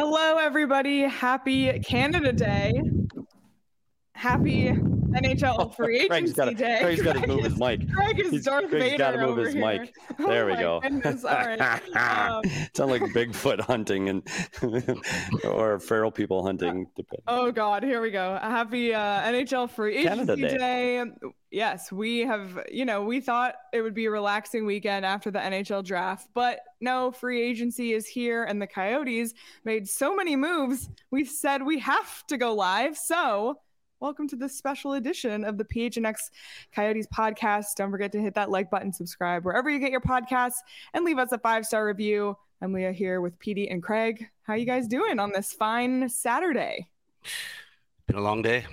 Hello, everybody. Happy Canada Day. Happy NHL Free Agency Day. Craig's got to move his mic. Craig is Darth Vader got to move over his here. mic. There we go. Goodness. All right. Sound like Bigfoot hunting and or feral people hunting. Oh God, here we go. Happy NHL Free Agency Day. Yes, we have. We thought it would be a relaxing weekend after the NHL draft, but no, free agency is here, and the Coyotes made so many moves. We said we have to go live, so. Welcome to this special edition of the PHNX Coyotes podcast. Don't forget to hit that like button, subscribe wherever you get your podcasts, and leave us a 5-star review. I'm Leah here with Petey and Craig. How you guys doing on this fine Saturday? Been a long day.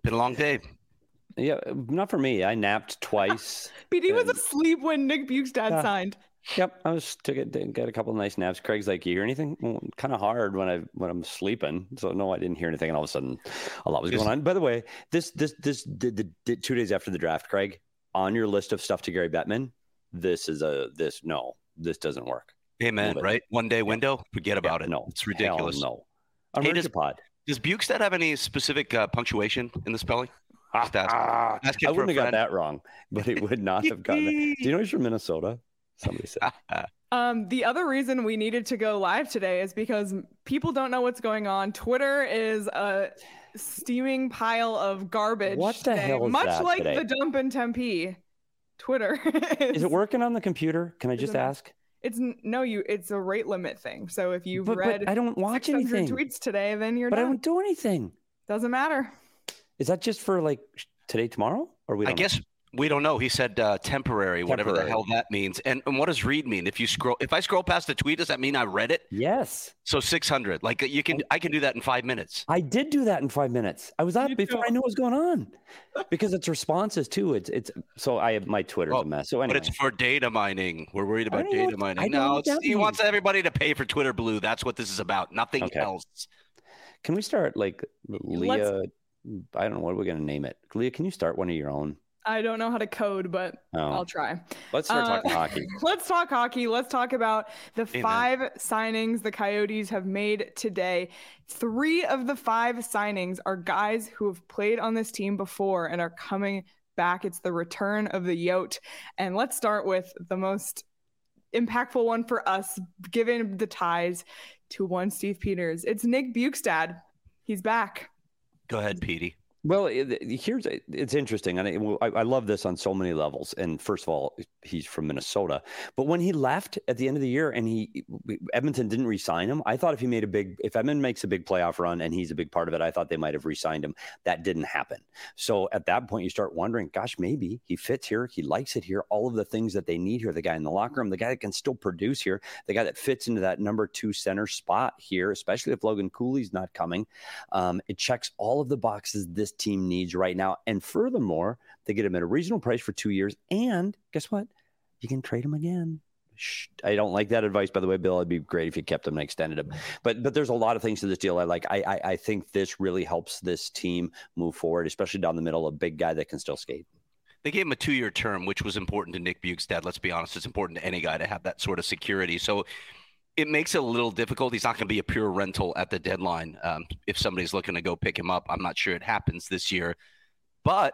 Yeah, not for me. I napped twice. Petey was asleep when Nick Bjugstad signed. Yep, I got a couple of nice naps. Craig's like, you hear anything? Well, kind of hard when I'm sleeping. So no, I didn't hear anything. And all of a sudden, a lot was going on. By the way, this 2 days after the draft, Craig, on your list of stuff to Gary Bettman, this doesn't work. Amen. Right? 1 day window. Forget about it. No, it's ridiculous. No. Does Bjugstad have any specific punctuation in the spelling? I wouldn't have got that wrong, but it would not have gotten that. Do you know he's from Minnesota? Somebody said. The other reason we needed to go live today is because people don't know what's going on. Twitter is a steaming pile of garbage. What the hell is much that like today? the dump in Tempe. Twitter is it working on the computer? Can I just ask? It's a rate limit thing. So if you've read I don't watch anything tweets today, then you're done. I don't do anything. Doesn't matter. Is that just for like today, tomorrow, or I guess we don't know. He said temporary, whatever the hell that means. And what does read mean? If I scroll past the tweet, does that mean I read it? Yes. So 600. Like I can do that in 5 minutes. I did do that in 5 minutes. I was up before I knew what was going on, because it's responses too. It's so my Twitter's a mess. So anyway, but it's for data mining. We're worried about data mining. No, he wants everybody to pay for Twitter Blue. That's what this is about. Nothing else. Can we start like Leah? I don't know what we're going to name it. Leah, can you start one of your own? I don't know how to code, but I'll try. Let's start talking hockey. Let's talk hockey. Let's talk about the 5 signings the Coyotes have made today. 3 of the 5 signings are guys who have played on this team before and are coming back. It's the return of the Yote. And let's start with the most impactful one for us, given the ties to one Steve Peters. It's Nick Bjugstad. He's back. Go ahead, Petey. Well, it's interesting, and I love this on so many levels. And first of all, he's from Minnesota, but when he left at the end of the year and Edmonton didn't re-sign him, I thought if Edmonton makes a big playoff run and he's a big part of it, I thought they might have re-signed him. That didn't happen. So at that point, you start wondering, gosh, maybe he fits here, he likes it here, all of the things that they need here. The guy in the locker room, the guy that can still produce here, the guy that fits into that number 2 center spot here, especially if Logan Cooley's not coming. It checks all of the boxes this team needs right now. And furthermore, they get him at a reasonable price for 2 years. And guess what? You can trade him again. I don't like that advice, by the way, Bill. It'd be great if you kept him and extended him. But there's a lot of things to this deal I like. I think this really helps this team move forward, especially down the middle, a big guy that can still skate. They gave him a 2-year term, which was important to Nick Bjugstad. Let's be honest. It's important to any guy to have that sort of security. So it makes it a little difficult. He's not going to be a pure rental at the deadline. If somebody's looking to go pick him up, I'm not sure it happens this year. But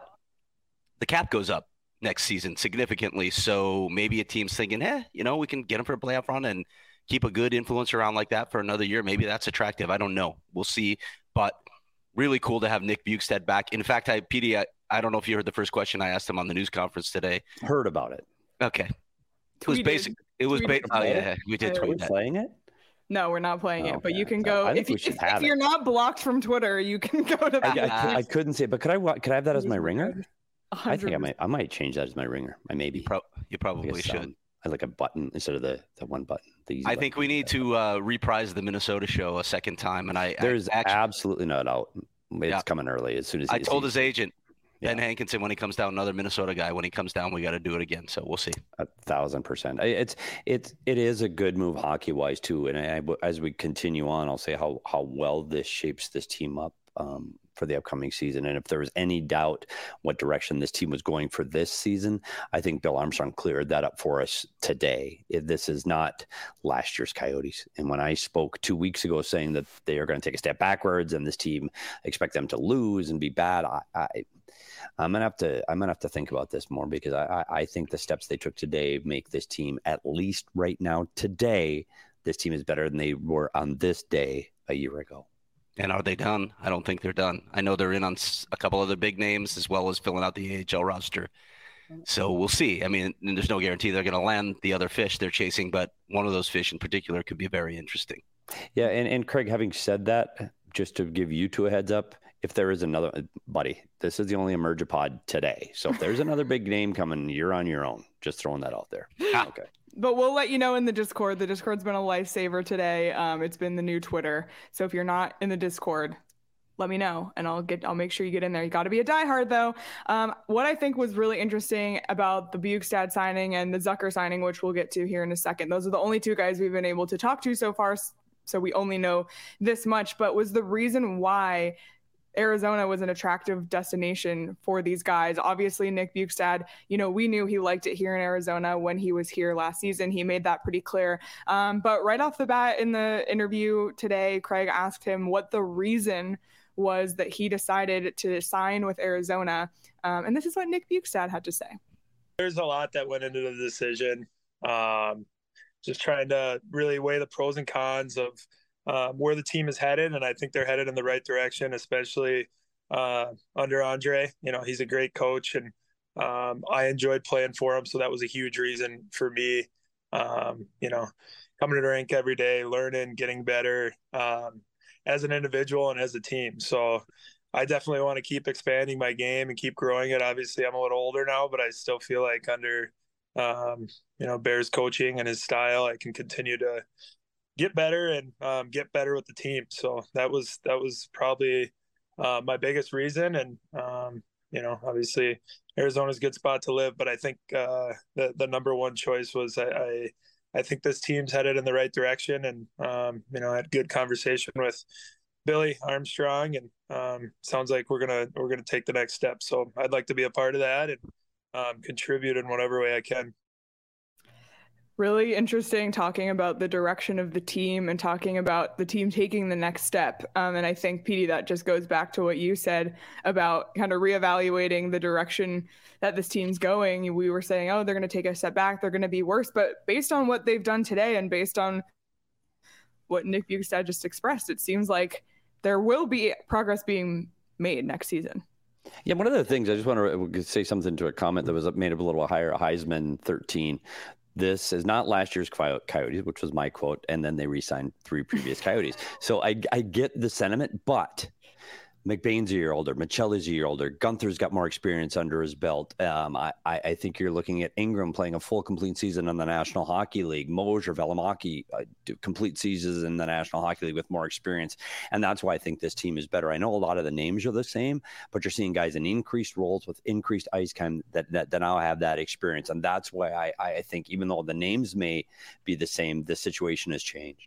the cap goes up next season significantly. So maybe a team's thinking, we can get him for a playoff run and keep a good influence around like that for another year. Maybe that's attractive. I don't know. We'll see. But really cool to have Nick Bjugstad back. In fact, Petey, I don't know if you heard the first question I asked him on the news conference today. Heard about it. Okay. It was basic. It was we did tweet that. Playing it? No, we're not playing it, but you can go. If you're not blocked from Twitter, you can go to. I couldn't say it, but could I have that as my ringer? 100%. I think I might change that as my ringer. Maybe. You probably should. I like a button instead of the one button. I think we need to reprise the Minnesota show a second time, and there's absolutely no doubt. It's coming early as soon as I told his agent. Ben Hankinson, when he comes down, another Minnesota guy, when he comes down, we got to do it again. So we'll see. 1,000%. It is a good move hockey wise too. And as we continue on, I'll say how well this shapes this team up for the upcoming season. And if there was any doubt what direction this team was going for this season, I think Bill Armstrong cleared that up for us today. This is not last year's Coyotes. And when I spoke 2 weeks ago saying that they are going to take a step backwards and this team expect them to lose and be bad, I'm gonna have to think about this more, because I think the steps they took today make this team, at least right now today, this team is better than they were on this day a year ago. And are they done? I don't think they're done. I know they're in on a couple of the big names, as well as filling out the AHL roster. So we'll see. I mean, there's no guarantee they're going to land the other fish they're chasing, but one of those fish in particular could be very interesting. Yeah, and Craig, having said that, just to give you two a heads up, if there is another, buddy, this is the only Emergipod today. So if there's another big name coming, you're on your own. Just throwing that out there. Okay. But we'll let you know in the Discord. The Discord's been a lifesaver today. It's been the new Twitter. So if you're not in the Discord, let me know and I'll make sure you get in there. You got to be a diehard though. What I think was really interesting about the Bjugstad signing and the Zucker signing, which we'll get to here in a second. Those are the only two guys we've been able to talk to so far. So we only know this much, but was the reason why Arizona was an attractive destination for these guys. Obviously, Nick Bjugstad, we knew he liked it here in Arizona when he was here last season. He made that pretty clear. But right off the bat in the interview today, Craig asked him what the reason was that he decided to sign with Arizona. And this is what Nick Bjugstad had to say. There's a lot that went into the decision. Just trying to really weigh the pros and cons of where the team is headed, and I think they're headed in the right direction, especially under Andre. He's a great coach, and I enjoyed playing for him, so that was a huge reason for me. Coming to the rink every day, learning, getting better as an individual and as a team. So I definitely want to keep expanding my game and keep growing it. Obviously, I'm a little older now, but I still feel like under Bear's coaching and his style, I can continue to get better and get better with the team. So that was probably my biggest reason. And, obviously Arizona's a good spot to live, but I think the number one choice was I think this team's headed in the right direction. And, I had good conversation with Billy Armstrong, and sounds like we're going to take the next step. So I'd like to be a part of that and contribute in whatever way I can. Really interesting talking about the direction of the team and talking about the team taking the next step. And I think, Petey, that just goes back to what you said about kind of reevaluating the direction that this team's going. We were saying, they're going to take a step back, they're going to be worse. But based on what they've done today and based on what Nick Bjugstad just expressed, it seems like there will be progress being made next season. Yeah, one of the things I just want to say something to a comment that was made a little higher, Heisman 13. This is not last year's Coyotes, which was my quote, and then they re-signed 3 previous Coyotes. So I get the sentiment, but McBain's a year older, Michelli's a year older, Gunther's got more experience under his belt. I think you're looking at Ingram playing a full complete season in the National Hockey League, Mosier, Valimaki, complete seasons in the National Hockey League with more experience. And that's why I think this team is better. I know a lot of the names are the same, but you're seeing guys in increased roles with increased ice time that now have that experience. And that's why I think even though the names may be the same, the situation has changed.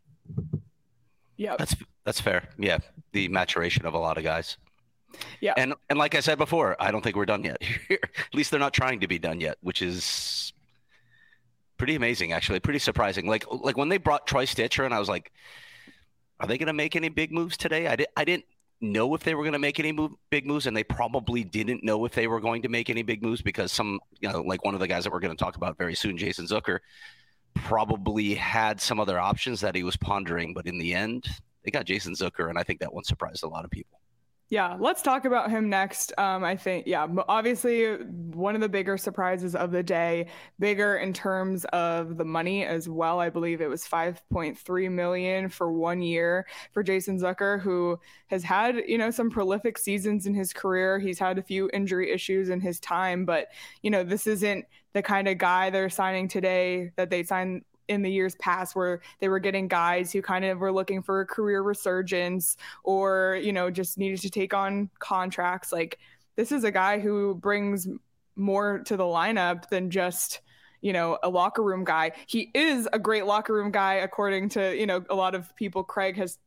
Yeah, that's fair. Yeah, the maturation of a lot of guys. Yeah, and like I said before, I don't think we're done yet. At least they're not trying to be done yet, which is pretty amazing, actually. Pretty surprising. Like when they brought Troy Stitcher, and I was like, are they going to make any big moves today? I didn't know if they were going to make any big moves, and they probably didn't know if they were going to make any big moves because some, like one of the guys that we're going to talk about very soon, Jason Zucker, probably had some other options that he was pondering, but in the end, they got Jason Zucker, and I think that one surprised a lot of people. Yeah, let's talk about him next. I think, obviously one of the bigger surprises of the day, bigger in terms of the money as well. I believe it was $5.3 million for 1 year for Jason Zucker, who has had, some prolific seasons in his career. He's had a few injury issues in his time, but, this isn't the kind of guy they're signing today that they signed in the years past, where they were getting guys who kind of were looking for a career resurgence or, just needed to take on contracts. Like, this is a guy who brings more to the lineup than just, a locker room guy. He is a great locker room guy, according to, a lot of people Craig has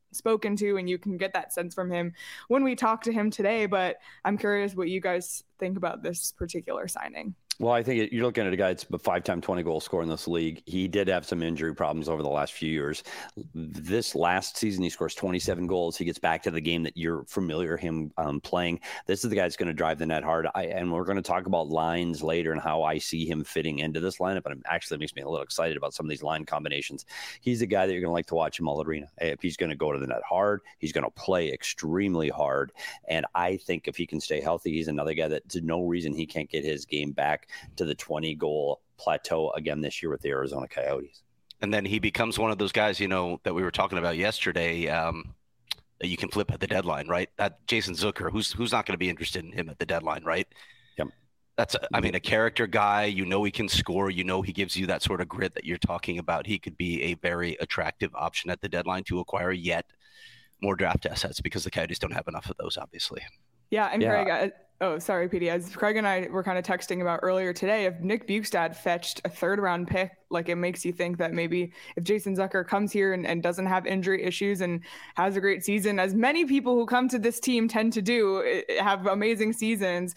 spoken to, and you can get that sense from him when we talk to him today. But I'm curious what you guys think about this particular signing. Well, I think you're looking at a guy that's a 5-time 20-goal scorer in this league. He did have some injury problems over the last few years. This last season, he scores 27 goals. He gets back to the game that you're familiar him playing. This is the guy that's going to drive the net hard. And we're going to talk about lines later and how I see him fitting into this lineup. But it actually makes me a little excited about some of these line combinations. He's the guy that you're going to like to watch in all arena. If he's going to go to the net hard, he's going to play extremely hard. And I think if he can stay healthy, he's another guy that there's no reason he can't get his game back to the 20-goal plateau again this year with the Arizona Coyotes. And then he becomes one of those guys, that we were talking about yesterday, that you can flip at the deadline, right? That Jason Zucker, who's not going to be interested in him at the deadline, right? Yep. That's, a character guy. He can score. He gives you that sort of grit that you're talking about. He could be a very attractive option at the deadline to acquire yet more draft assets because the Coyotes don't have enough of those, obviously. Yeah, and Craig, sorry, PD. As Craig and I were kind of texting about earlier today, if Nick Bjugstad fetched a third-round pick, it makes you think that maybe if Jason Zucker comes here and doesn't have injury issues and has a great season, as many people who come to this team tend to do, have amazing seasons,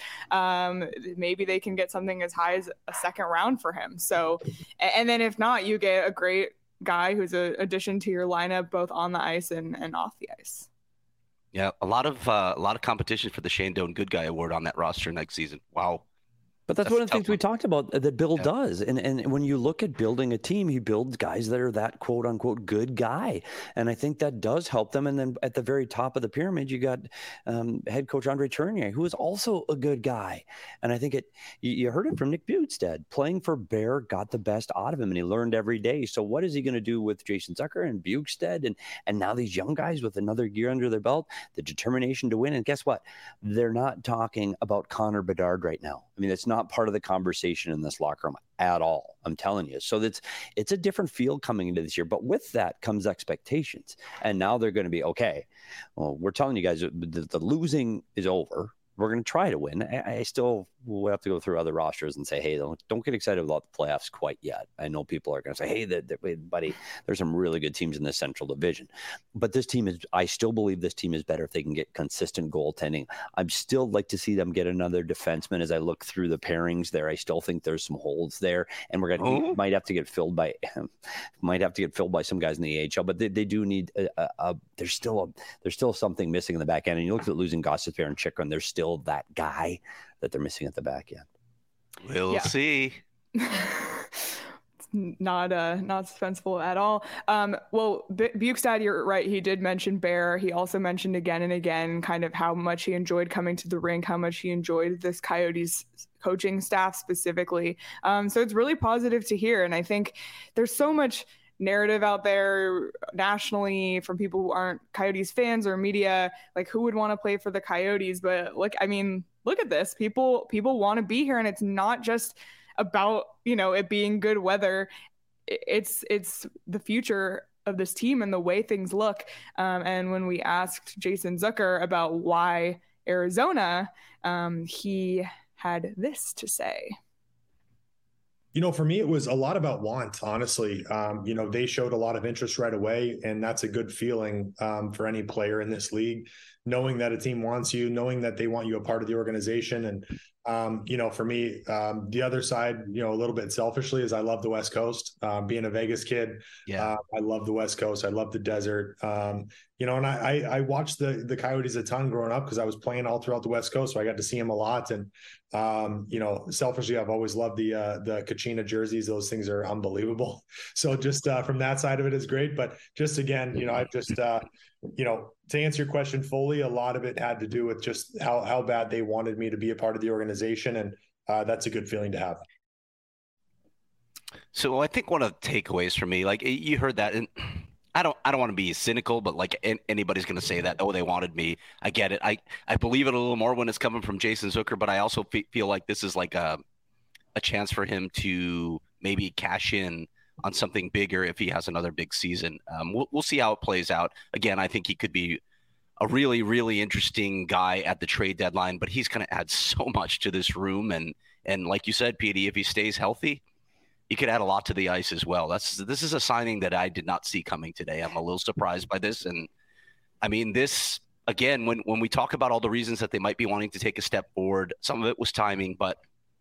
maybe they can get something as high as a second round for him. So, and then if not, you get a great guy who's an addition to your lineup, both on the ice and off the ice. Yeah, a lot of competition for the Shane Doan Good Guy Award on that roster next season. Wow. But that's one of the things we talked about that Bill does. And when you look at building a team, he builds guys that are that quote unquote good guy. And I think that does help them. And then at the very top of the pyramid, you got head coach Andre Tournier, who is also a good guy. And I think you heard it from Nick Bjugstad. Playing for Bear got the best out of him, and he learned every day. So what is he going to do with Jason Zucker and Bjugstad and now these young guys with another year under their belt, the determination to win? And guess what? They're not talking about Connor Bedard right now. I mean, it's not part of the conversation in this locker room at all. I'm telling you. So it's a different field coming into this year. But with that comes expectations. And now they're going to be, okay, well, we're telling you guys the losing is over. We're going to try to win. I still will have to go through other rosters and say, hey, don't get excited about the playoffs quite yet. I know people are going to say, hey, buddy, there's some really good teams in the Central Division. But this team I still believe this team is better if they can get consistent goaltending. I'd still like to see them get another defenseman as I look through the pairings there. I still think there's some holes there, and might have to get filled by some guys in the AHL, but they do need there's still something missing in the back end. And you look at losing Gostisbehere and Chychrun, there's still that guy that they're missing at the back end. We'll see. Not suspenseful at all. Well, Bjugstad, you're right. He did mention Bear. He also mentioned again and again kind of how much he enjoyed coming to the rink, how much he enjoyed this Coyotes coaching staff specifically. So it's really positive to hear. And I think there's so much narrative out there nationally from people who aren't Coyotes fans or media, who would want to play for the Coyotes. But look at this. People want to be here, and it's not just about, it being good weather. It's the future of this team and the way things look. And when we asked Jason Zucker about why Arizona, he had this to say. For me, it was a lot about want, honestly. They showed a lot of interest right away, and that's a good feeling for any player in this league, knowing that a team wants you, knowing that they want you a part of the organization. And, for me, the other side, a little bit selfishly, is I love the West Coast. Being a Vegas kid, I love the West Coast. I love the desert. And I watched the Coyotes a ton growing up because I was playing all throughout the West Coast, so I got to see them a lot. And selfishly, I've always loved the Kachina jerseys. Those things are unbelievable. So just from that side of it is great. But just again, I've just to answer your question fully, a lot of it had to do with just how bad they wanted me to be a part of the organization, and that's a good feeling to have. So I think one of the takeaways for me, you heard that, and I don't want to be cynical, but anybody's going to say that, they wanted me. I get it. I believe it a little more when it's coming from Jason Zucker, but I also feel like this is a chance for him to maybe cash in on something bigger if he has another big season. We'll see how it plays out. Again, I think he could be a really, really interesting guy at the trade deadline, but he's going to add so much to this room. And like you said, PD, if he stays healthy, he could add a lot to the ice as well. This is a signing that I did not see coming today. I'm a little surprised by this, and I mean, this, again, when we talk about all the reasons that they might be wanting to take a step forward, some of it was timing, but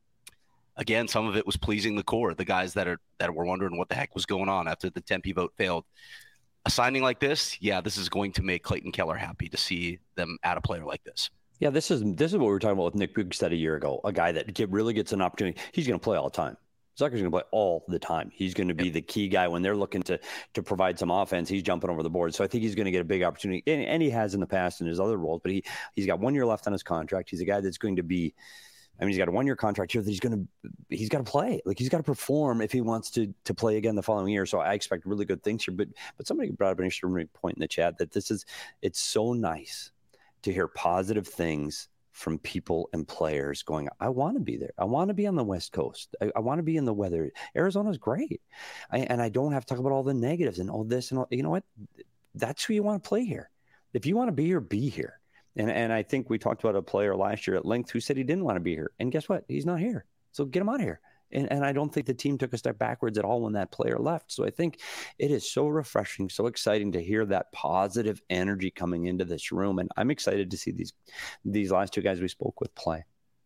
again, some of it was pleasing the core, the guys that were wondering what the heck was going on after the Tempe vote failed. A signing like this, this is going to make Clayton Keller happy to see them add a player like this. Yeah, this is what we were talking about with Nick Bjugstad a year ago, a guy that really gets an opportunity. He's going to play all the time. Zucker's going to play all the time. He's going to be the key guy when they're looking to provide some offense. He's jumping over the board. So I think he's going to get a big opportunity, and he has in the past in his other roles. But he's got 1 year left on his contract. He's a guy that's going to be. I mean, he's got a 1 year contract here that he's got to play. Like, he's got to perform if he wants to play again the following year. So I expect really good things here. But somebody brought up an interesting point in the chat that it's so nice to hear positive things from people and players going, I want to be there. I want to be on the West Coast. I want to be in the weather. Arizona's great. And I don't have to talk about all the negatives and all this and all. You know what? That's who you want to play here. If you want to be here, be here. And I think we talked about a player last year at length who said he didn't want to be here. And guess what? He's not here. So get him out of here. And I don't think the team took a step backwards at all when that player left. So I think it is so refreshing, so exciting to hear that positive energy coming into this room. And I'm excited to see these last two guys we spoke with play.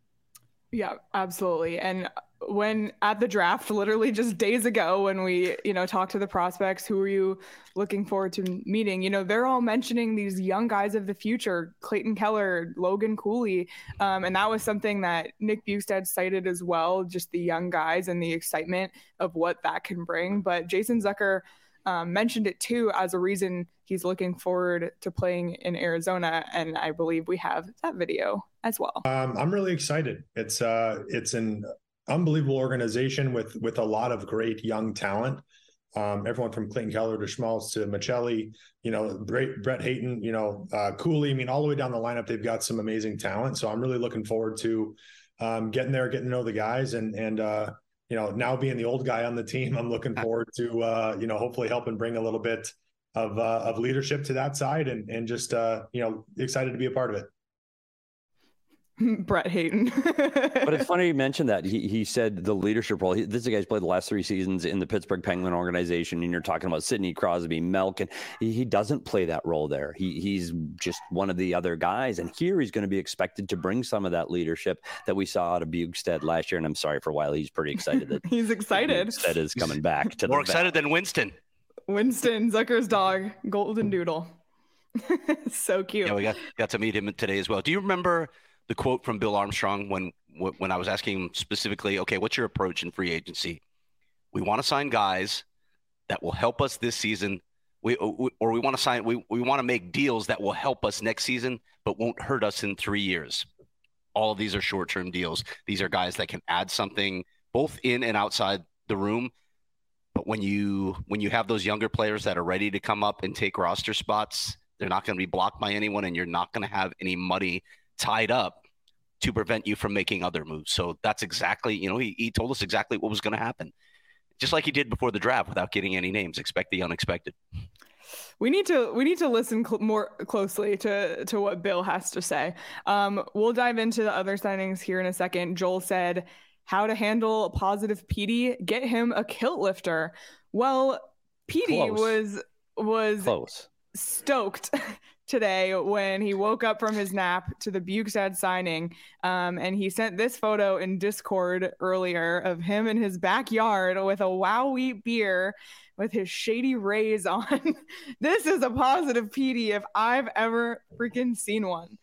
Yeah, absolutely. And when at the draft, literally just days ago, when we, talked to the prospects, who are you looking forward to meeting? They're all mentioning these young guys of the future, Clayton Keller, Logan Cooley. And that was something that Nick Bjugstad cited as well, just the young guys and the excitement of what that can bring. But Jason Zucker mentioned it too as a reason he's looking forward to playing in Arizona. And I believe we have that video as well. I'm really excited. It's an unbelievable organization with a lot of great young talent. Everyone from Clayton Keller to Schmaltz to Michelli, great Brett Hayton, Cooley. I mean, all the way down the lineup, they've got some amazing talent. So I'm really looking forward to getting there, getting to know the guys, and now being the old guy on the team, I'm looking forward to hopefully helping bring a little bit of leadership to that side, and just excited to be a part of it. Brett Hayton. But it's funny you mentioned that. He said the leadership role. This is a guy's played the last 3 seasons in the Pittsburgh Penguin organization, and you're talking about Sidney Crosby, Melk, and he doesn't play that role there. He's just one of the other guys, and here he's going to be expected to bring some of that leadership that we saw out of Bjugstad last year. And I'm sorry for Wiley, he's pretty excited that he's excited. Bjugstad is coming back to more excited than Winston. Winston, Zucker's dog, Golden Doodle. So cute. Yeah, we got to meet him today as well. Do you remember the quote from Bill Armstrong when I was asking him specifically, okay, what's your approach in free agency? We want to sign guys that will help us this season. We want to make deals that will help us next season, but won't hurt us in 3 years. All of these are short-term deals. These are guys that can add something both in and outside the room. But when you have those younger players that are ready to come up and take roster spots, they're not going to be blocked by anyone, and you're not going to have any money tied up to prevent you from making other moves. So that's exactly, he told us exactly what was going to happen. Just like he did before the draft without getting any names. Expect the unexpected. We need to listen more closely to what Bill has to say. We'll dive into the other signings here in a second. Joel said, how to handle a positive Petey, get him a kilt lifter. Well, Petey was close. Stoked today when he woke up from his nap to the Bjugstad signing, and he sent this photo in Discord earlier of him in his backyard with a Wow Wheat beer with his Shady Rays on. This is a positive Petey if I've ever freaking seen one.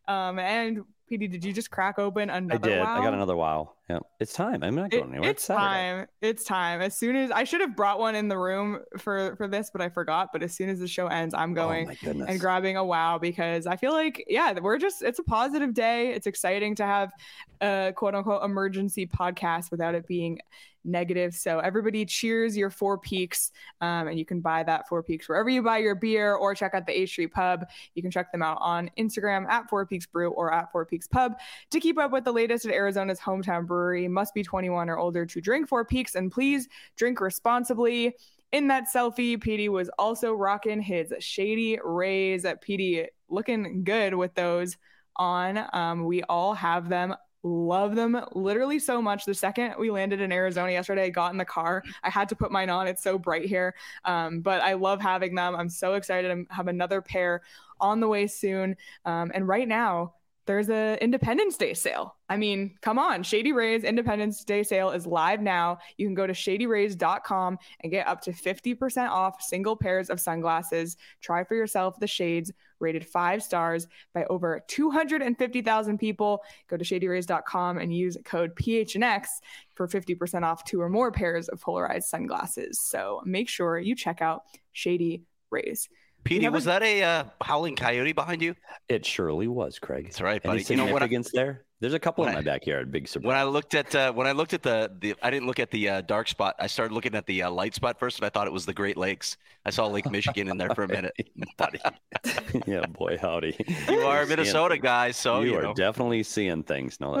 And Petey, did you just crack open another I did. Wow? I got another Wow. Yeah, it's time. I'm not going anywhere. It's time. It's time. As soon as I should have brought one in the room for this, but I forgot. But as soon as the show ends, I'm going and grabbing a Wow, because I feel like, it's a positive day. It's exciting to have a quote unquote emergency podcast without it being negative. So everybody cheers your Four Peaks, and you can buy that Four Peaks wherever you buy your beer, or check out the A Street Pub. You can check them out on Instagram at Four Peaks Brew or at Four Peaks Pub to keep up with the latest at Arizona's hometown brewery. Must be 21 or older to drink Four Peaks, and please drink responsibly. In that selfie, Petey was also rocking his Shady Rays. Petey looking good with those on. We all have them love them literally so much. The second we landed in Arizona yesterday, I got in the car. I had to put mine on. It's so bright here. But I love having them. I'm so excited. I have another pair on the way soon. And right now, there's a Independence Day sale. I mean, come on. Shady Rays Independence Day sale is live now. You can go to shadyrays.com and get up to 50% off single pairs of sunglasses. Try for yourself the shades rated 5 stars by over 250,000 people. Go to shadyrays.com and use code PHNX for 50% off 2 or more pairs of polarized sunglasses. So make sure you check out Shady Rays. Petey, was that a howling coyote behind you? It surely was, Craig. That's right, buddy. Any significance there? There's a couple in my backyard. Big surprise. When I looked at the I didn't look at the dark spot. I started looking at the light spot first, and I thought it was the Great Lakes. I saw Lake Michigan in there for a minute. Buddy. Yeah, boy, howdy. You are a Minnesota guy, so you are definitely seeing things. No,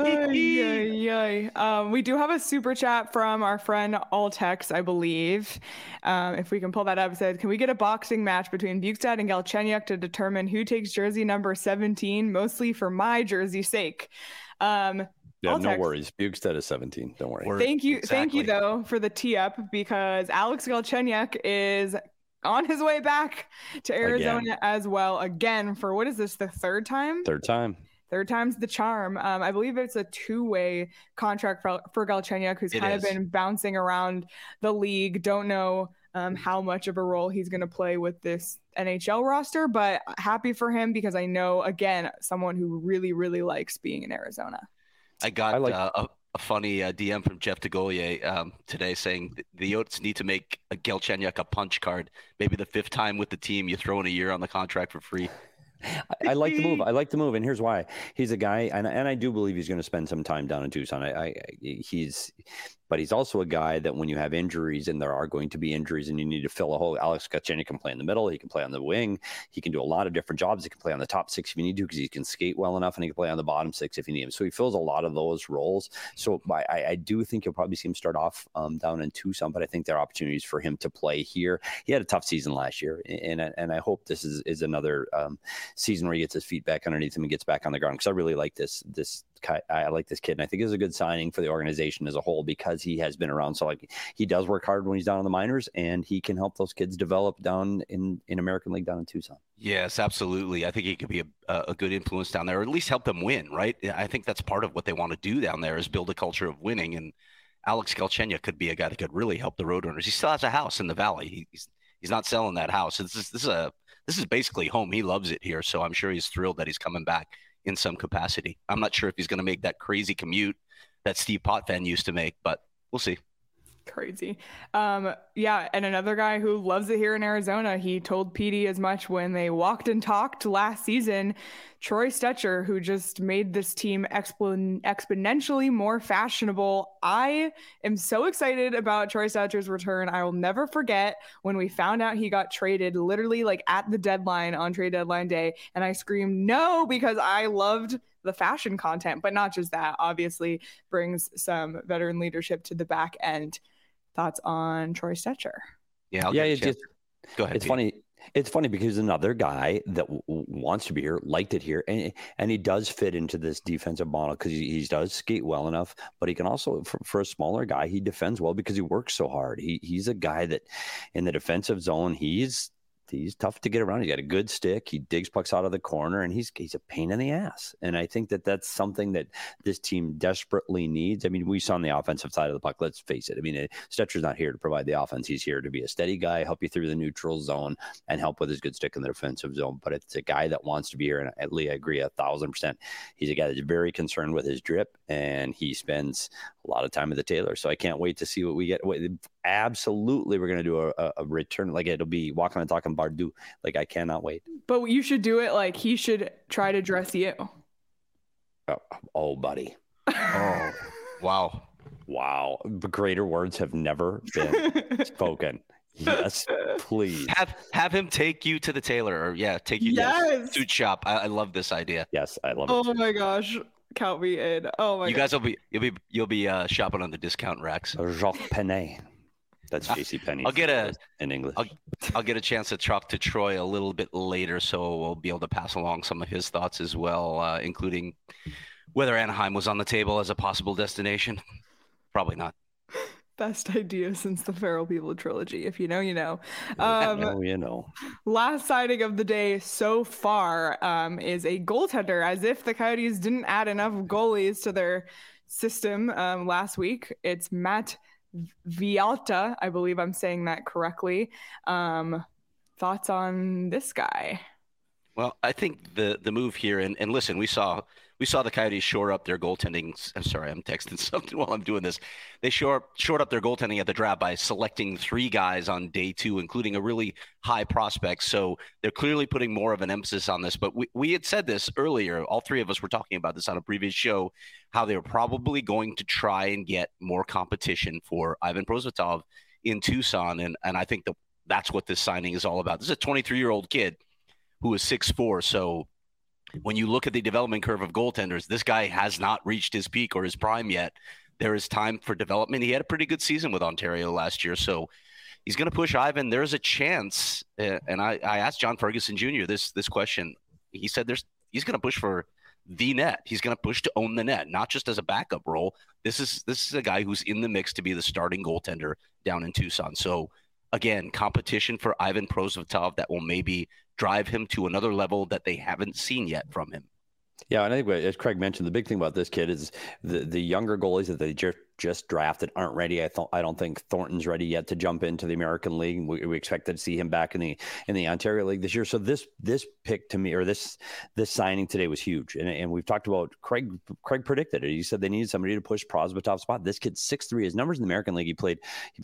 we do have a super chat from our friend Altex, I believe. If we can pull that up, it said, can we get a boxing match between Bjugstad and Galchenyuk to determine who takes jersey number 17, mostly for my jersey's sake? Yeah, no worries. Bjugstad is 17. Don't worry. Thank you though for the tee up, because Alex Galchenyuk is on his way back to Arizona as well. Again, for what is this? The third time? Third time's the charm. I believe it's a 2-way contract for Galchenyuk, who's kind of been bouncing around the league. Don't know how much of a role he's going to play with this NHL roster, but happy for him, because I know, again, someone who really, really likes being in Arizona. I got a funny DM from Jeff DeGolier today saying the Yotes need to make a Galchenyuk a punch card. Maybe the 5th time with the team, you throw in a year on the contract for free. I like the move. And here's why. He's a guy, and I do believe he's going to spend some time down in Tucson. But he's also a guy that when you have injuries, and there are going to be injuries, and you need to fill a hole, Alex Galchenyuk can play in the middle. He can play on the wing. He can do a lot of different jobs. He can play on the top 6 if you need to, because he can skate well enough, and he can play on the bottom 6 if you need him. So he fills a lot of those roles. So I do think you'll probably see him start off down in Tucson, but I think there are opportunities for him to play here. He had a tough season last year, and I hope this is another season where he gets his feet back underneath him and gets back on the ground, because I really like this I like this kid, and I think it's a good signing for the organization as a whole, because he has been around. So he does work hard when he's down in the minors, and he can help those kids develop down in American League down in Tucson. Yes, absolutely. I think he could be a good influence down there, or at least help them win, right? I think that's part of what they want to do down there, is build a culture of winning. And Alex Galchenyuk could be a guy that could really help the Roadrunners. He still has a house in the Valley. He's not selling that house. This is basically home. He loves it here, so I'm sure he's thrilled that he's coming back in some capacity. I'm not sure if he's going to make that crazy commute that Steve Potvin used to make, but we'll see. Crazy. Yeah, and another guy who loves it here in Arizona, he told PD as much when they walked and talked last season, Troy Stecher, who just made this team exponentially more fashionable. I am so excited about Troy Stecher's return. I will never forget when we found out he got traded literally like at the deadline on trade deadline day, and I screamed no, because I loved the fashion content, but not just that, obviously brings some veteran leadership to the back end. Thoughts on Troy Stecher? Yeah, go ahead. It's funny because another guy that wants to be here, liked it here, and he does fit into this defensive model because he does skate well enough, but he can also, for a smaller guy, he defends well because he works so hard. He's a guy that in the defensive zone, he's tough to get around. He's got a good stick. He digs pucks out of the corner, and he's a pain in the ass. And I think that's something that this team desperately needs. I mean, we saw on the offensive side of the puck, let's face it. I mean, Stetcher's not here to provide the offense. He's here to be a steady guy, help you through the neutral zone, and help with his good stick in the defensive zone. But it's a guy that wants to be here, and I agree 1,000%. He's a guy that's very concerned with his drip, and he spends a lot of time at the Taylor. So I can't wait to see what we get. Absolutely, we're going to do a return. Like, it'll be walking and talking Bardu. Like, I cannot wait. But you should do it like he should try to dress you. Oh, buddy. Oh, wow. Greater words have never been spoken. Yes, please. Have him take you to the Taylor, or take you to the suit shop. I love this idea. Yes, I love it. Oh my gosh. Count me in. Oh my god. You guys you'll be shopping on the discount racks. Jacques Penet. That's JC Penney. In English. I'll get a chance to talk to Troy a little bit later, so we'll be able to pass along some of his thoughts as well, including Whether Anaheim was on the table as a possible destination, probably not. Best idea since the Feral People trilogy. If you know, you know. You know. Last sighting of the day so far is a goaltender, as if the Coyotes didn't add enough goalies to their system last week. It's Matt Villalta. I believe I'm saying that correctly. Thoughts on this guy? Well, I think the move here, and listen, we saw the Coyotes shore up their goaltending. I'm sorry, I'm texting something while I'm doing this. They shored up their goaltending at the draft by selecting 3 guys on day 2, including a really high prospect. So they're clearly putting more of an emphasis on this. But we had said this earlier. All 3 of us were talking about this on a previous show, how they were probably going to try and get more competition for Ivan Prosvetov in Tucson. And I think that's what this signing is all about. This is a 23-year-old kid who is 6'4". So when you look at the development curve of goaltenders, this guy has not reached his peak or his prime yet. There is time for development. He had a pretty good season with Ontario last year, so he's going to push Ivan. There's a chance, and I asked John Ferguson Jr. this question. He said he's going to push for the net. He's going to push to own the net, not just as a backup role. This is a guy who's in the mix to be the starting goaltender down in Tucson. So again, competition for Ivan Prosvetov that will maybe drive him to another level that they haven't seen yet from him. Yeah, and I think as Craig mentioned, the big thing about this kid is the younger goalies that they just drafted aren't ready. I don't think Thornton's ready yet to jump into the American League. We expect to see him back in the Ontario League this year. So this pick to me, or this signing today, was huge. And we've talked about Craig predicted it. He said they needed somebody to push Prosvetov's spot. This kid's 6'3". His numbers in the American League, he played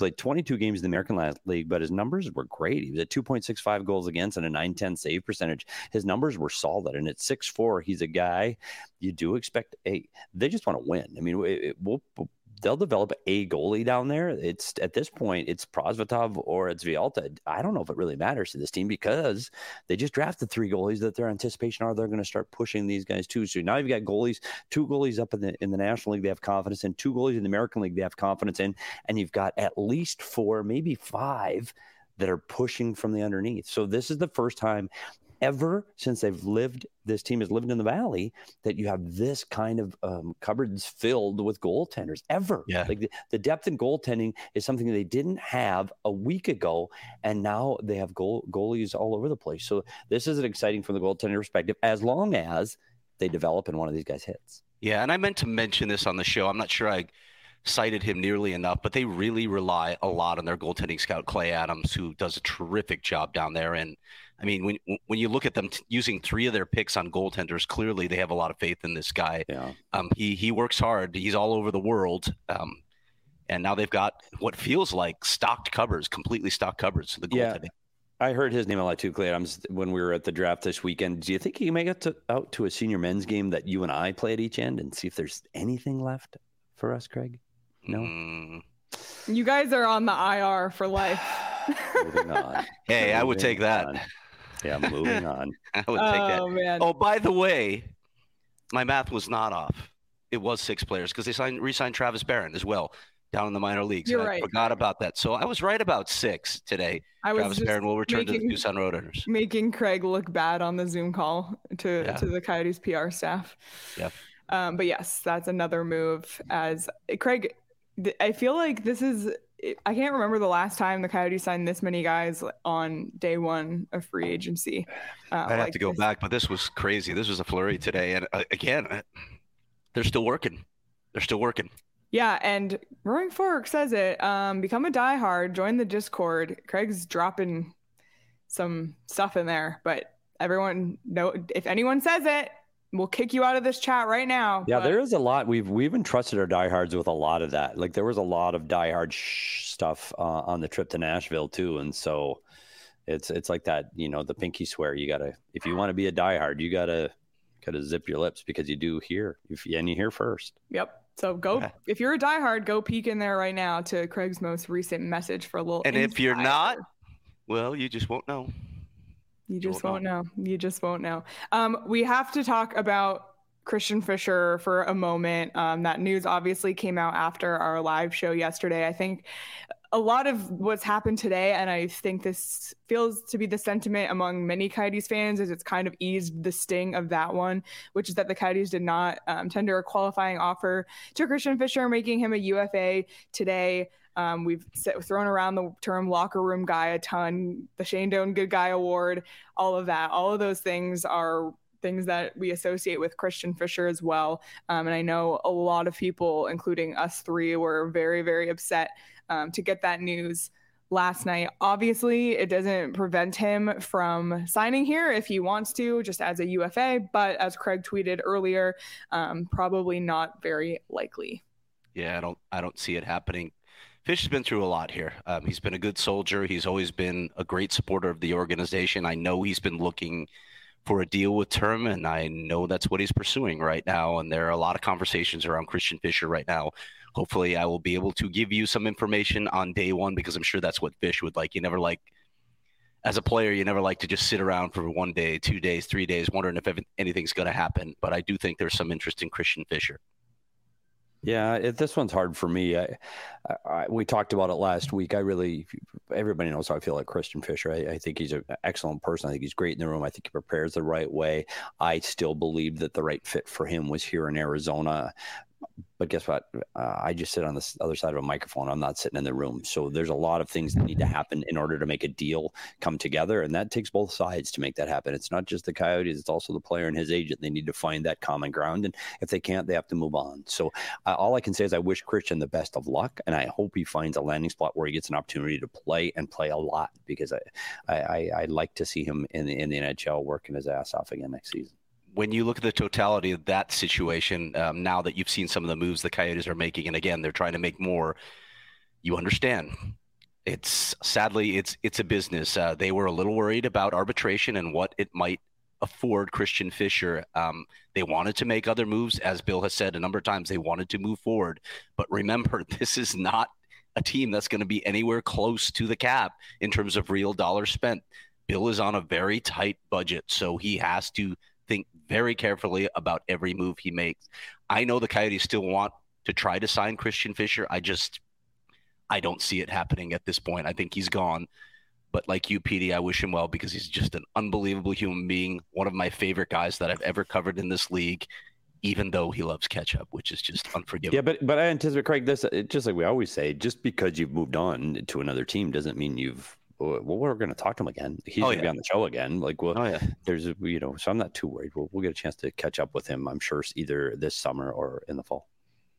22 games in the American League, but his numbers were great. He was at 2.65 goals against and a .910 save percentage. His numbers were solid. And at 6'4", he's a guy you do expect. They just want to win. I mean, they'll develop a goalie down there. It's at this point, it's Prosvetov or it's Villalta. I don't know if it really matters to this team because they just drafted 3 goalies that their anticipation are they're going to start pushing these guys too. So now you've got 2 goalies up in the National League they have confidence in, 2 goalies in the American League they have confidence in, and you've got at least 4, maybe 5 that are pushing from the underneath. So this is the first time ever since this team has lived in the Valley that you have this kind of cupboards filled with goaltenders ever. Yeah. Like the depth in goaltending is something they didn't have a week ago, and now they have goalies all over the place. So this is exciting from the goaltender perspective, as long as they develop and one of these guys hits. Yeah, and I meant to mention this on the show. I'm not sure I cited him nearly enough, but they really rely a lot on their goaltending scout, Clay Adams, who does a terrific job down there. And I mean, when you look at them using 3 of their picks on goaltenders, clearly they have a lot of faith in this guy. Yeah. He works hard. He's all over the world. And now they've got what feels like completely stocked cupboards for the goaltending. Yeah. I heard his name a lot too, Clay Adams, when we were at the draft this weekend. Do you think he can make it out to a senior men's game that you and I play at each end and see if there's anything left for us, Craig? No. You guys are on the IR for life. Moving on. Hey, I would take that. Yeah, moving on. I would take that. Man. Oh, by the way, my math was not off. It was 6 players because they re-signed Travis Barron as well down in the minor leagues. You're right. I forgot about that. So I was right about 6 today. Travis Barron will return to the Tucson Roadrunners. Making Craig look bad on the Zoom call to the Coyotes PR staff. Yeah. But yes, that's another move. As Craig, I feel like this is. I can't remember the last time the Coyotes signed this many guys on day 1 of free agency. I'd have to go back, but this was crazy. This was a flurry today. And again, they're still working. Yeah, and Roaring Fork says it. Become a diehard, join the Discord. Craig's dropping some stuff in there, but everyone know if anyone says it, we'll kick you out of this chat right now. Yeah, there is a lot. We've entrusted our diehards with a lot of that. Like there was a lot of diehard stuff on the trip to Nashville too, and so it's like that. You know, the pinky swear. You gotta, if you want to be a diehard, you gotta zip your lips because you do hear, and you hear first. Yep. So go if you're a diehard, go peek in there right now to Craig's most recent message for a little. And if you're not, well, you just won't know. You just won't know. You just won't know. We have to talk about Christian Fischer for a moment. That news obviously came out after our live show yesterday. I think a lot of what's happened today, and I think this feels to be the sentiment among many Coyotes fans, is it's kind of eased the sting of that one, which is that the Coyotes did not tender a qualifying offer to Christian Fischer, making him a UFA today. We've thrown around the term locker room guy a ton, the Shane Doan Good Guy Award, all of that. All of those things are things that we associate with Christian Fischer as well. And I know a lot of people, including us three, were very, very upset to get that news last night. Obviously, it doesn't prevent him from signing here if he wants to, just as a UFA. But as Craig tweeted earlier, probably not very likely. Yeah, I don't see it happening. Fish has been through a lot here. He's been a good soldier. He's always been a great supporter of the organization. I know he's been looking for a deal with term, and I know that's what he's pursuing right now. And there are a lot of conversations around Christian Fischer right now. Hopefully I will be able to give you some information on day one, because I'm sure that's what Fish would like. As a player, you never like to just sit around for 1 day, 2 days, 3 days, wondering if anything's going to happen. But I do think there's some interest in Christian Fischer. Yeah, this one's hard for me. We talked about it last week. Everybody knows how I feel like Christian Fischer. I think he's an excellent person. I think he's great in the room. I think he prepares the right way. I still believe that the right fit for him was here in Arizona. But guess what? I just sit on the other side of a microphone. I'm not sitting in the room. So there's a lot of things that need to happen in order to make a deal come together. And that takes both sides to make that happen. It's not just the Coyotes. It's also the player and his agent. They need to find that common ground. And if they can't, they have to move on. So all I can say is I wish Christian the best of luck. And I hope he finds a landing spot where he gets an opportunity to play and play a lot, because I'd like to see him in the NHL working his ass off again next season. When you look at the totality of that situation, now that you've seen some of the moves the Coyotes are making, and again, they're trying to make more, you understand. Sadly, it's a business. They were a little worried about arbitration and what it might afford Christian Fischer. They wanted to make other moves. As Bill has said a number of times, they wanted to move forward. But remember, this is not a team that's going to be anywhere close to the cap in terms of real dollars spent. Bill is on a very tight budget, so he has to think very carefully about every move he makes. I know the Coyotes still want to try to sign Christian Fischer. I don't see it happening at this point. I think he's gone. But like you, Petey, I wish him well, because he's just an unbelievable human being, one of my favorite guys that I've ever covered in this league, even though he loves ketchup, which is just unforgivable. Yeah, but I anticipate, Craig, this, just like we always say, just because you've moved on to another team doesn't mean we're going to talk to him again. He's going to be on the show again. There's, so I'm not too worried. We'll get a chance to catch up with him, I'm sure, either this summer or in the fall.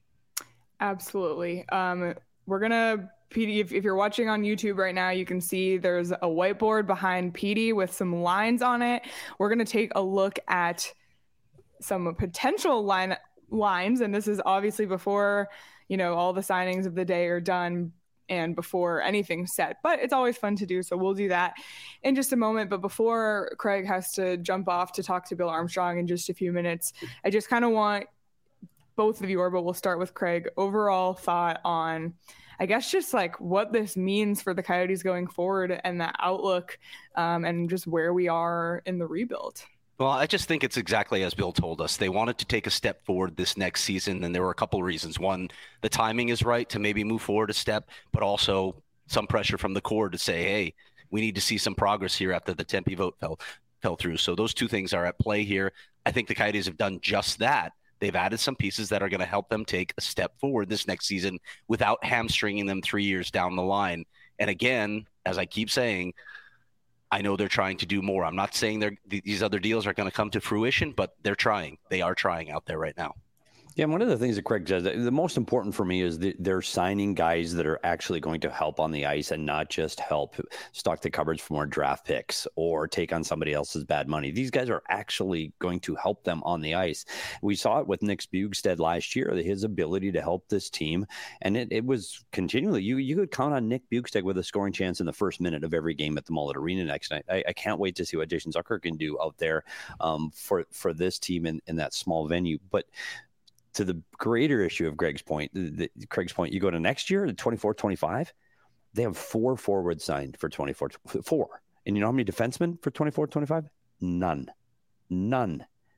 Absolutely. We're going to, Petey, if you're watching on YouTube right now, you can see there's a whiteboard behind Petey with some lines on it. We're going to take a look at some potential lines. And this is obviously before, all the signings of the day are done and before anything's set, but it's always fun to do. So we'll do that in just a moment. But before Craig has to jump off to talk to Bill Armstrong in just a few minutes, I just kind of want both of you, but we'll start with Craig, overall thought on, I guess, just like what this means for the Coyotes going forward and the outlook, and just where we are in the rebuild. Well, I just think it's exactly as Bill told us. They wanted to take a step forward this next season, and there were a couple of reasons. One, the timing is right to maybe move forward a step, but also some pressure from the core to say, hey, we need to see some progress here after the Tempe vote fell through. So those two things are at play here. I think the Coyotes have done just that. They've added some pieces that are going to help them take a step forward this next season without hamstringing them 3 years down the line. And again, as I keep saying, I know they're trying to do more. I'm not saying these other deals are going to come to fruition, but they're trying. They are trying out there right now. Yeah, one of the things that Craig says, the most important for me is they're signing guys that are actually going to help on the ice and not just help stock the cupboards for more draft picks or take on somebody else's bad money. These guys are actually going to help them on the ice. We saw it with Nick Bjugstad last year, his ability to help this team. And it was continually, you could count on Nick Bjugstad with a scoring chance in the first minute of every game at the Mullet Arena next night. I can't wait to see what Jason Zucker can do out there for this team in that small venue. But to the greater issue of Craig's point, you go to next year, the 24-25, they have 4 forwards signed for 24. 4. And you know how many defensemen for 24-25? None.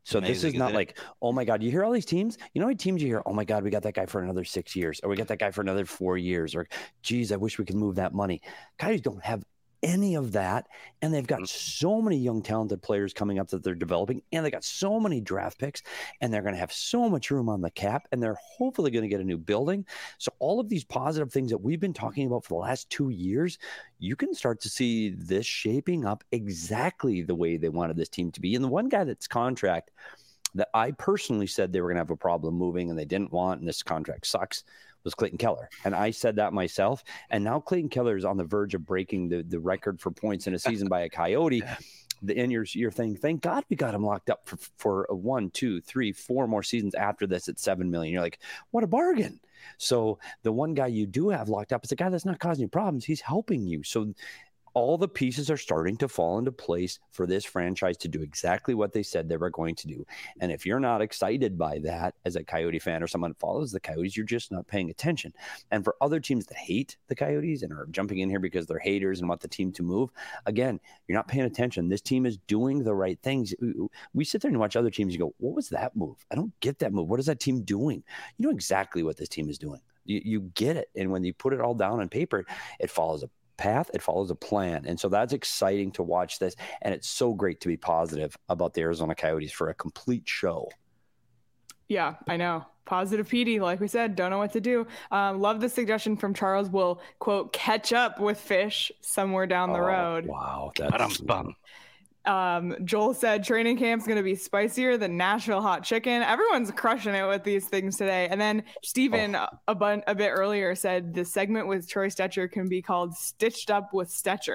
So this is not like, oh my God, you hear all these teams? You know how many teams you hear, oh my God, we got that guy for another 6 years, or we got that guy for another 4 years, or geez, I wish we could move that money. Coyotes don't have any of that, and they've got so many young talented players coming up that they're developing, and they got so many draft picks, and they're going to have so much room on the cap, and they're hopefully going to get a new building. So all of these positive things that we've been talking about for the last 2 years, you can start to see this shaping up exactly the way they wanted this team to be. And the one guy that's contract that I personally said they were going to have a problem moving and they didn't want, and this contract sucks, was Clayton Keller. And I said that myself. And now Clayton Keller is on the verge of breaking the record for points in a season by a Coyote. And you're thinking, thank God we got him locked up for 1, 2, 3, 4 more seasons after this at $7 million. You're like, what a bargain. So the one guy you do have locked up is a guy that's not causing you problems. He's helping you. So all the pieces are starting to fall into place for this franchise to do exactly what they said they were going to do. And if you're not excited by that as a Coyote fan or someone follows the Coyotes, you're just not paying attention. And for other teams that hate the Coyotes and are jumping in here because they're haters and want the team to move, again, you're not paying attention. This team is doing the right things. We sit there and watch other teams. You go, what was that move? I don't get that move. What is that team doing? You know exactly what this team is doing. You get it. And when you put it all down on paper, it follows a path, it follows a plan. And so that's exciting to watch this. And it's so great to be positive about the Arizona Coyotes for a complete show. Yeah, I know. Positive PD, like we said, don't know what to do. Love the suggestion from Charles. Will, quote, catch up with Fish somewhere down the road. Wow. That's fun. Joel said training camp's going to be spicier than Nashville hot chicken. Everyone's crushing it with these things today. And then Steven a bit earlier said the segment with Troy Stecher can be called Stitched Up with Stecher.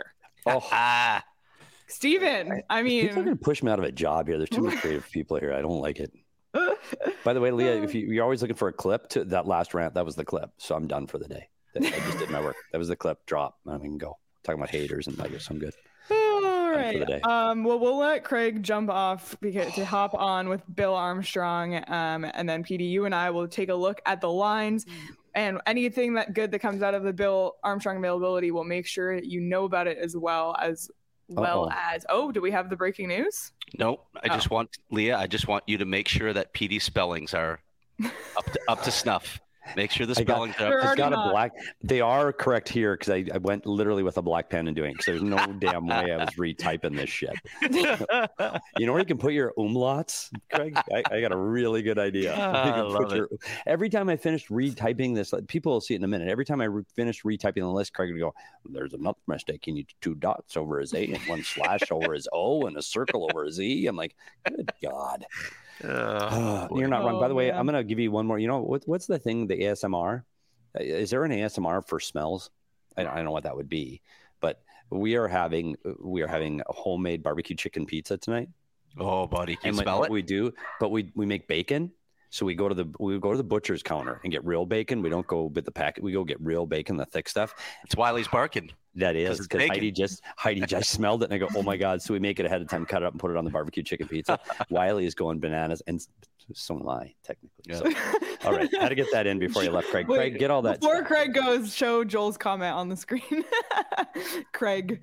Steven, I mean, people are going to push me out of a job here. There's too many creative people here. I don't like it. By the way, Leah, if you're always looking for a clip to that last rant, that was the clip. So I'm done for the day. I just did my work. That was the clip. Drop. I can go. Talking about haters and I guess I'm good. All right. Well, we'll let Craig jump off to hop on with Bill Armstrong, and then PD, you and I will take a look at the lines, and anything that comes out of the Bill Armstrong availability, we'll make sure you know about it as well as. Do we have the breaking news? No, I just want you to make sure that PD spellings are up to snuff. Make sure the spellings are They are correct here because I went literally with a black pen and doing it because there's no damn way I was retyping this shit. You know where you can put your umlauts, Craig? I got a really good idea. Every time I finished retyping this, people will see it in a minute. Every time I finished retyping the list, Craig would go, "There's another mistake. You need 2 dots over his A and 1 slash over his O and a circle over his E." I'm like, good God. You're not wrong. By the way, I'm going to give you one more. You know, what's the thing, the ASMR? Is there an ASMR for smells? I don't know what that would be, but we are having a homemade barbecue chicken pizza tonight. Oh, buddy, can you smell it? We do, but we make bacon. So we go to the butcher's counter and get real bacon. We don't go with the packet. We go get real bacon, the thick stuff. It's Wiley's barking. That is because Heidi just smelled it and I go, oh my God. So we make it ahead of time, cut it up and put it on the barbecue chicken pizza. Wiley is going bananas, and so am I technically. Yeah. So, all right. Had to get that in before you left, Craig. Wait, Craig, get all that. Before stuff. Craig goes, show Joel's comment on the screen. Craig.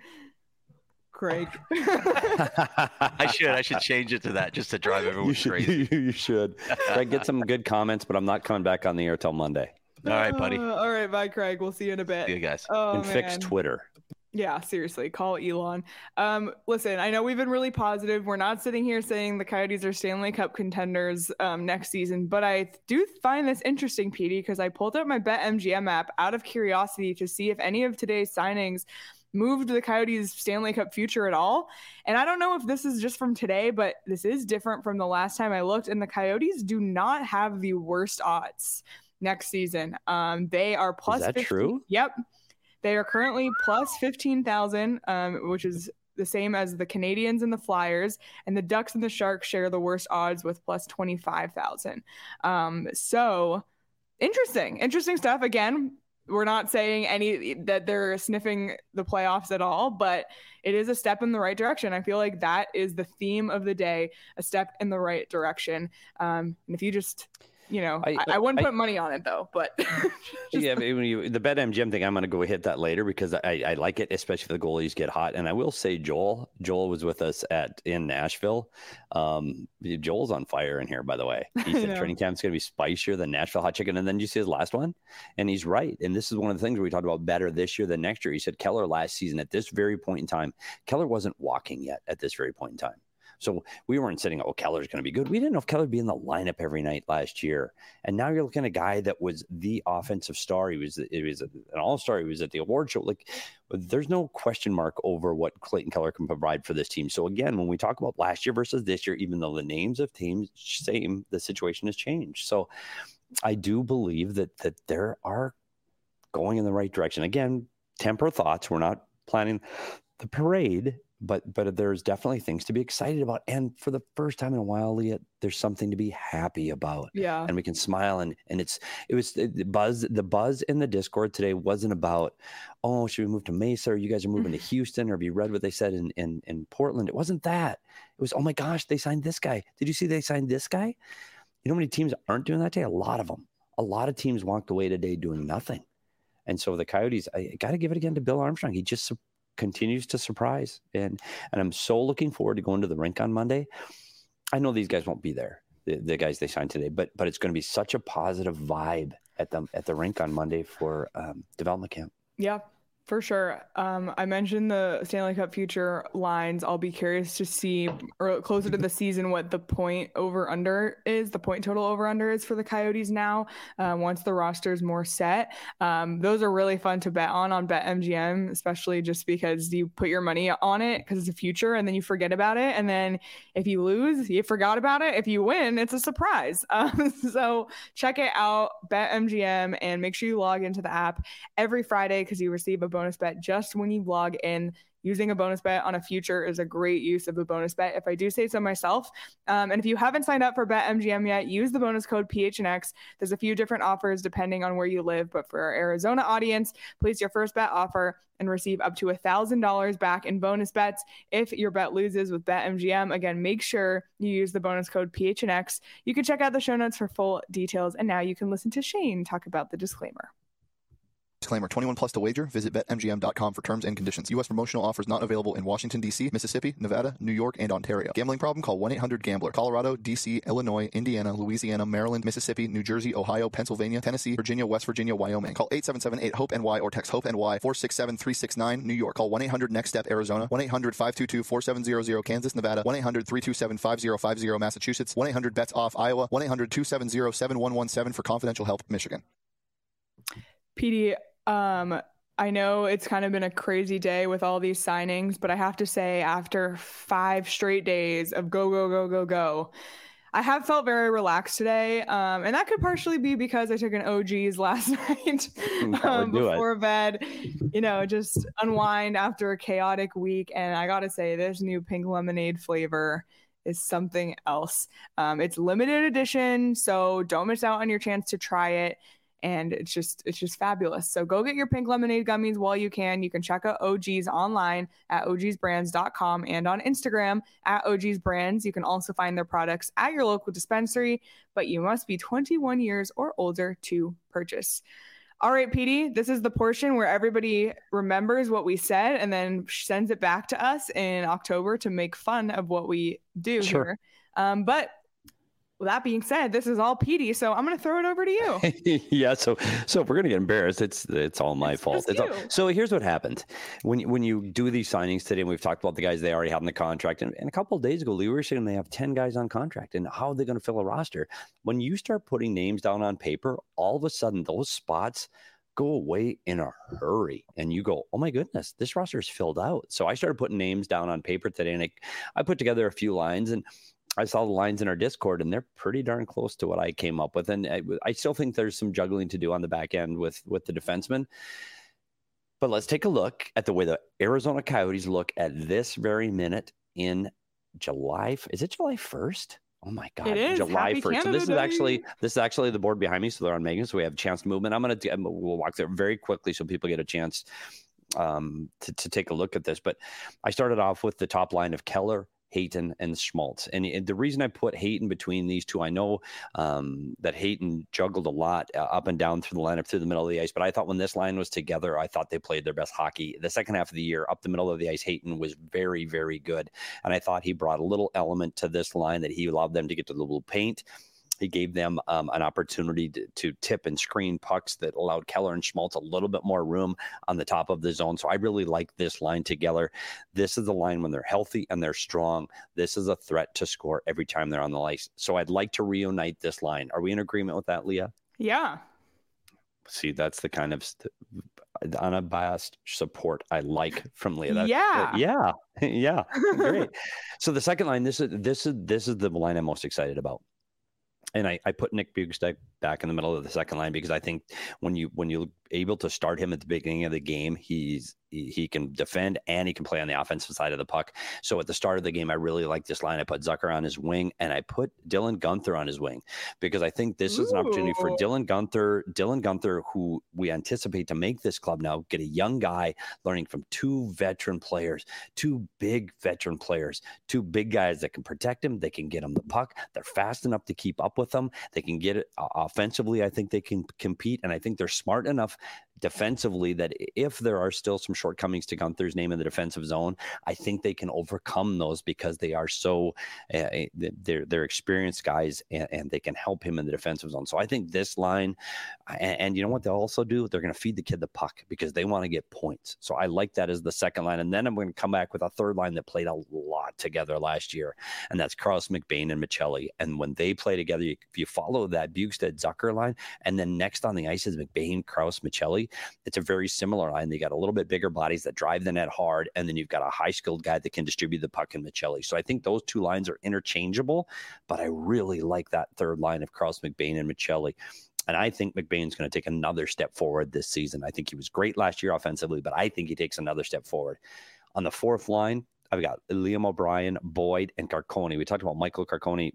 I should change it to that just to drive everyone crazy. You should. Craig, get some good comments, but I'm not coming back on the air till Monday. All right, buddy. All right, bye, Craig. We'll see you in a bit. See you guys. And fix Twitter. Yeah, seriously, call Elon. Listen, I know we've been really positive. We're not sitting here saying the Coyotes are Stanley Cup contenders next season, but I do find this interesting, Petey, because I pulled up my BetMGM app out of curiosity to see if any of today's signings moved the Coyotes' Stanley Cup future at all. And I don't know if this is just from today, but this is different from the last time I looked, and the Coyotes do not have the worst odds next season. They are plus. Is that 15, true? Yep. They are currently plus 15,000, which is the same as the Canadians and the Flyers, and the Ducks and the Sharks share the worst odds with plus 25,000. So interesting stuff. Again, we're not saying that they're sniffing the playoffs at all, but it is a step in the right direction. I feel like that is the theme of the day, a step in the right direction. And if you just I wouldn't put money on it though, but yeah, the BetMGM thing, I'm going to go hit that later because I like it, especially if the goalies get hot. And I will say Joel was with us in Nashville. Joel's on fire in here, by the way. He said training camp's going to be spicier than Nashville hot chicken. And then you see his last one, and he's right. And this is one of the things where we talked about better this year than next year. He said Keller last season at this very point in time, Keller wasn't walking yet at this very point in time. So we weren't sitting, Keller's going to be good. We didn't know if Keller would be in the lineup every night last year. And now you're looking at a guy that was the offensive star. He was an all-star. He was at the award show. Like, there's no question mark over what Clayton Keller can provide for this team. So again, when we talk about last year versus this year, even though the names of teams same, the situation has changed. So I do believe that there are going in the right direction. Again, temper thoughts. We're not planning the parade, but there's definitely things to be excited about. And for the first time in a while, Leah, there's something to be happy about. Yeah. And we can smile. And the buzz in the Discord today wasn't about, should we move to Mesa, or you guys are moving to Houston, or have you read what they said in Portland? It wasn't that. It was, oh my gosh, they signed this guy. Did you see they signed this guy? You know how many teams aren't doing that today? A lot of them. A lot of teams walked away today doing nothing. And so the Coyotes, I got to give it again to Bill Armstrong. He just continues to surprise. And I'm so looking forward to going to the rink on Monday. I know these guys won't be there, the guys they signed today, but it's going to be such a positive vibe at the rink on Monday for development camp. Yeah, for sure. I mentioned the Stanley Cup future lines. I'll be curious to see, or closer to the season, what the point total over under is for the Coyotes now, once the roster is more set. Those are really fun to bet on BetMGM, especially just because you put your money on it because it's a future, and then you forget about it. And then if you lose, you forgot about it. If you win, it's a surprise. So check it out, BetMGM, and make sure you log into the app every Friday because you receive a bonus bet just when you log in. Using a bonus bet on a future is a great use of a bonus bet, if I do say so myself. And if you haven't signed up for BetMGM yet, use the bonus code PHNX. There's a few different offers depending on where you live, but for our Arizona audience, place your first bet offer and receive up to $1,000 back in bonus bets if your bet loses with BetMGM. Again, make sure you use the bonus code PHNX. You can check out the show notes for full details. And now you can listen to Shane talk about the disclaimer. Disclaimer, 21 plus to wager. Visit BetMGM.com for terms and conditions. U.S. promotional offers not available in Washington, D.C., Mississippi, Nevada, New York, and Ontario. Gambling problem? Call 1-800-GAMBLER. Colorado, D.C., Illinois, Indiana, Louisiana, Maryland, Mississippi, New Jersey, Ohio, Pennsylvania, Tennessee, Virginia, West Virginia, Wyoming. Call 877-8-HOPE-NY or text HOPE-NY 467-369, New York. Call 1-800-NEXT-STEP, Arizona. 1-800-522-4700, Kansas, Nevada. 1-800-327-5050, Massachusetts. 1-800-BETS-OFF, Iowa. 1-800-270-7117 for confidential help, Michigan. PD, I know it's kind of been a crazy day with all these signings, but I have to say, after 5 straight days of go, I have felt very relaxed today. And that could partially be because I took an OG's last night before bed, just unwind after a chaotic week. And I got to say, this new pink lemonade flavor is something else. It's limited edition, so don't miss out on your chance to try it. And it's just fabulous. So go get your pink lemonade gummies while you can. You can check out OG's online at ogsbrands.com and on Instagram at ogsbrands. You can also find their products at your local dispensary, but you must be 21 years or older to purchase. All right, PD, this is the portion where everybody remembers what we said and then sends it back to us in October to make fun of what we do here. But with that being said, this is all Petey, so I'm going to throw it over to you. Yeah, so if we're going to get embarrassed, it's all my fault. So here's what happened. When you do these signings today, and we've talked about the guys they already have in the contract, and a couple of days ago, we were saying they have 10 guys on contract, and how are they going to fill a roster? When you start putting names down on paper, all of a sudden those spots go away in a hurry, and you go, oh my goodness, this roster is filled out. So I started putting names down on paper today, and I put together a few lines, and I saw the lines in our Discord, and they're pretty darn close to what I came up with. And I still think there's some juggling to do on the back end with the defensemen. But let's take a look at the way the Arizona Coyotes look at this very minute in July. Is it July 1st? Oh my God, it is. July Happy 1st. Canada So this is actually the board behind me. So they're on Megan. So we have chance movement. We'll walk through it very quickly so people get a chance to take a look at this. But I started off with the top line of Keller, Hayton and Schmaltz. And the reason I put Hayton between these two, I know that Hayton juggled a lot up and down through the lineup, through the middle of the ice. But I thought when this line was together, I thought they played their best hockey. The second half of the year, up the middle of the ice, Hayton was very, very good. And I thought he brought a little element to this line that he allowed them to get to the blue paint. He gave them an opportunity to tip and screen pucks that allowed Keller and Schmaltz a little bit more room on the top of the zone. So I really like this line together. This is the line when they're healthy and they're strong. This is a threat to score every time they're on the ice. So I'd like to reunite this line. Are we in agreement with that, Leah? Yeah. See, that's the kind of unbiased support I like from Leah. Yeah. Great. So the second line, this is the line I'm most excited about. And I put Nick Bjugstad back in the middle of the second line because I think when you're able to start him at the beginning of the game, he can defend and he can play on the offensive side of the puck. So at the start of the game, I really like this line. I put Zucker on his wing and I put Dylan Guenther on his wing because I think this is an opportunity for Dylan Guenther, who we anticipate to make this club now, get a young guy learning from two veteran players, two big veteran players, two big guys that can protect him. They can get him the puck. They're fast enough to keep up with them. They can get it offensively. I think they can compete. And I think they're smart enough defensively that if there are still some shortcomings to Gunther's name in the defensive zone, I think they can overcome those because they are so they're experienced guys and they can help him in the defensive zone. So I think this line, and you know what they'll also do? They're going to feed the kid the puck because they want to get points. So I like that as the second line. And then I'm going to come back with a third line that played a lot together last year, and that's Krause, McBain, and Michelli. And when they play together, if you follow that Bjugstad-Zucker line, and then next on the ice is McBain, Krause, Michelli, it's a very similar line. They got a little bit bigger bodies that drive the net hard, and then you've got a high-skilled guy that can distribute the puck in Michelli. So I think those two lines are interchangeable, but I really like that third line of Krause, McBain, and Michelli. And I think McBain's going to take another step forward this season. I think he was great last year offensively, but I think he takes another step forward. On the fourth line, I've got Liam O'Brien, Boyd, and Carcone. We talked about Michael Carcone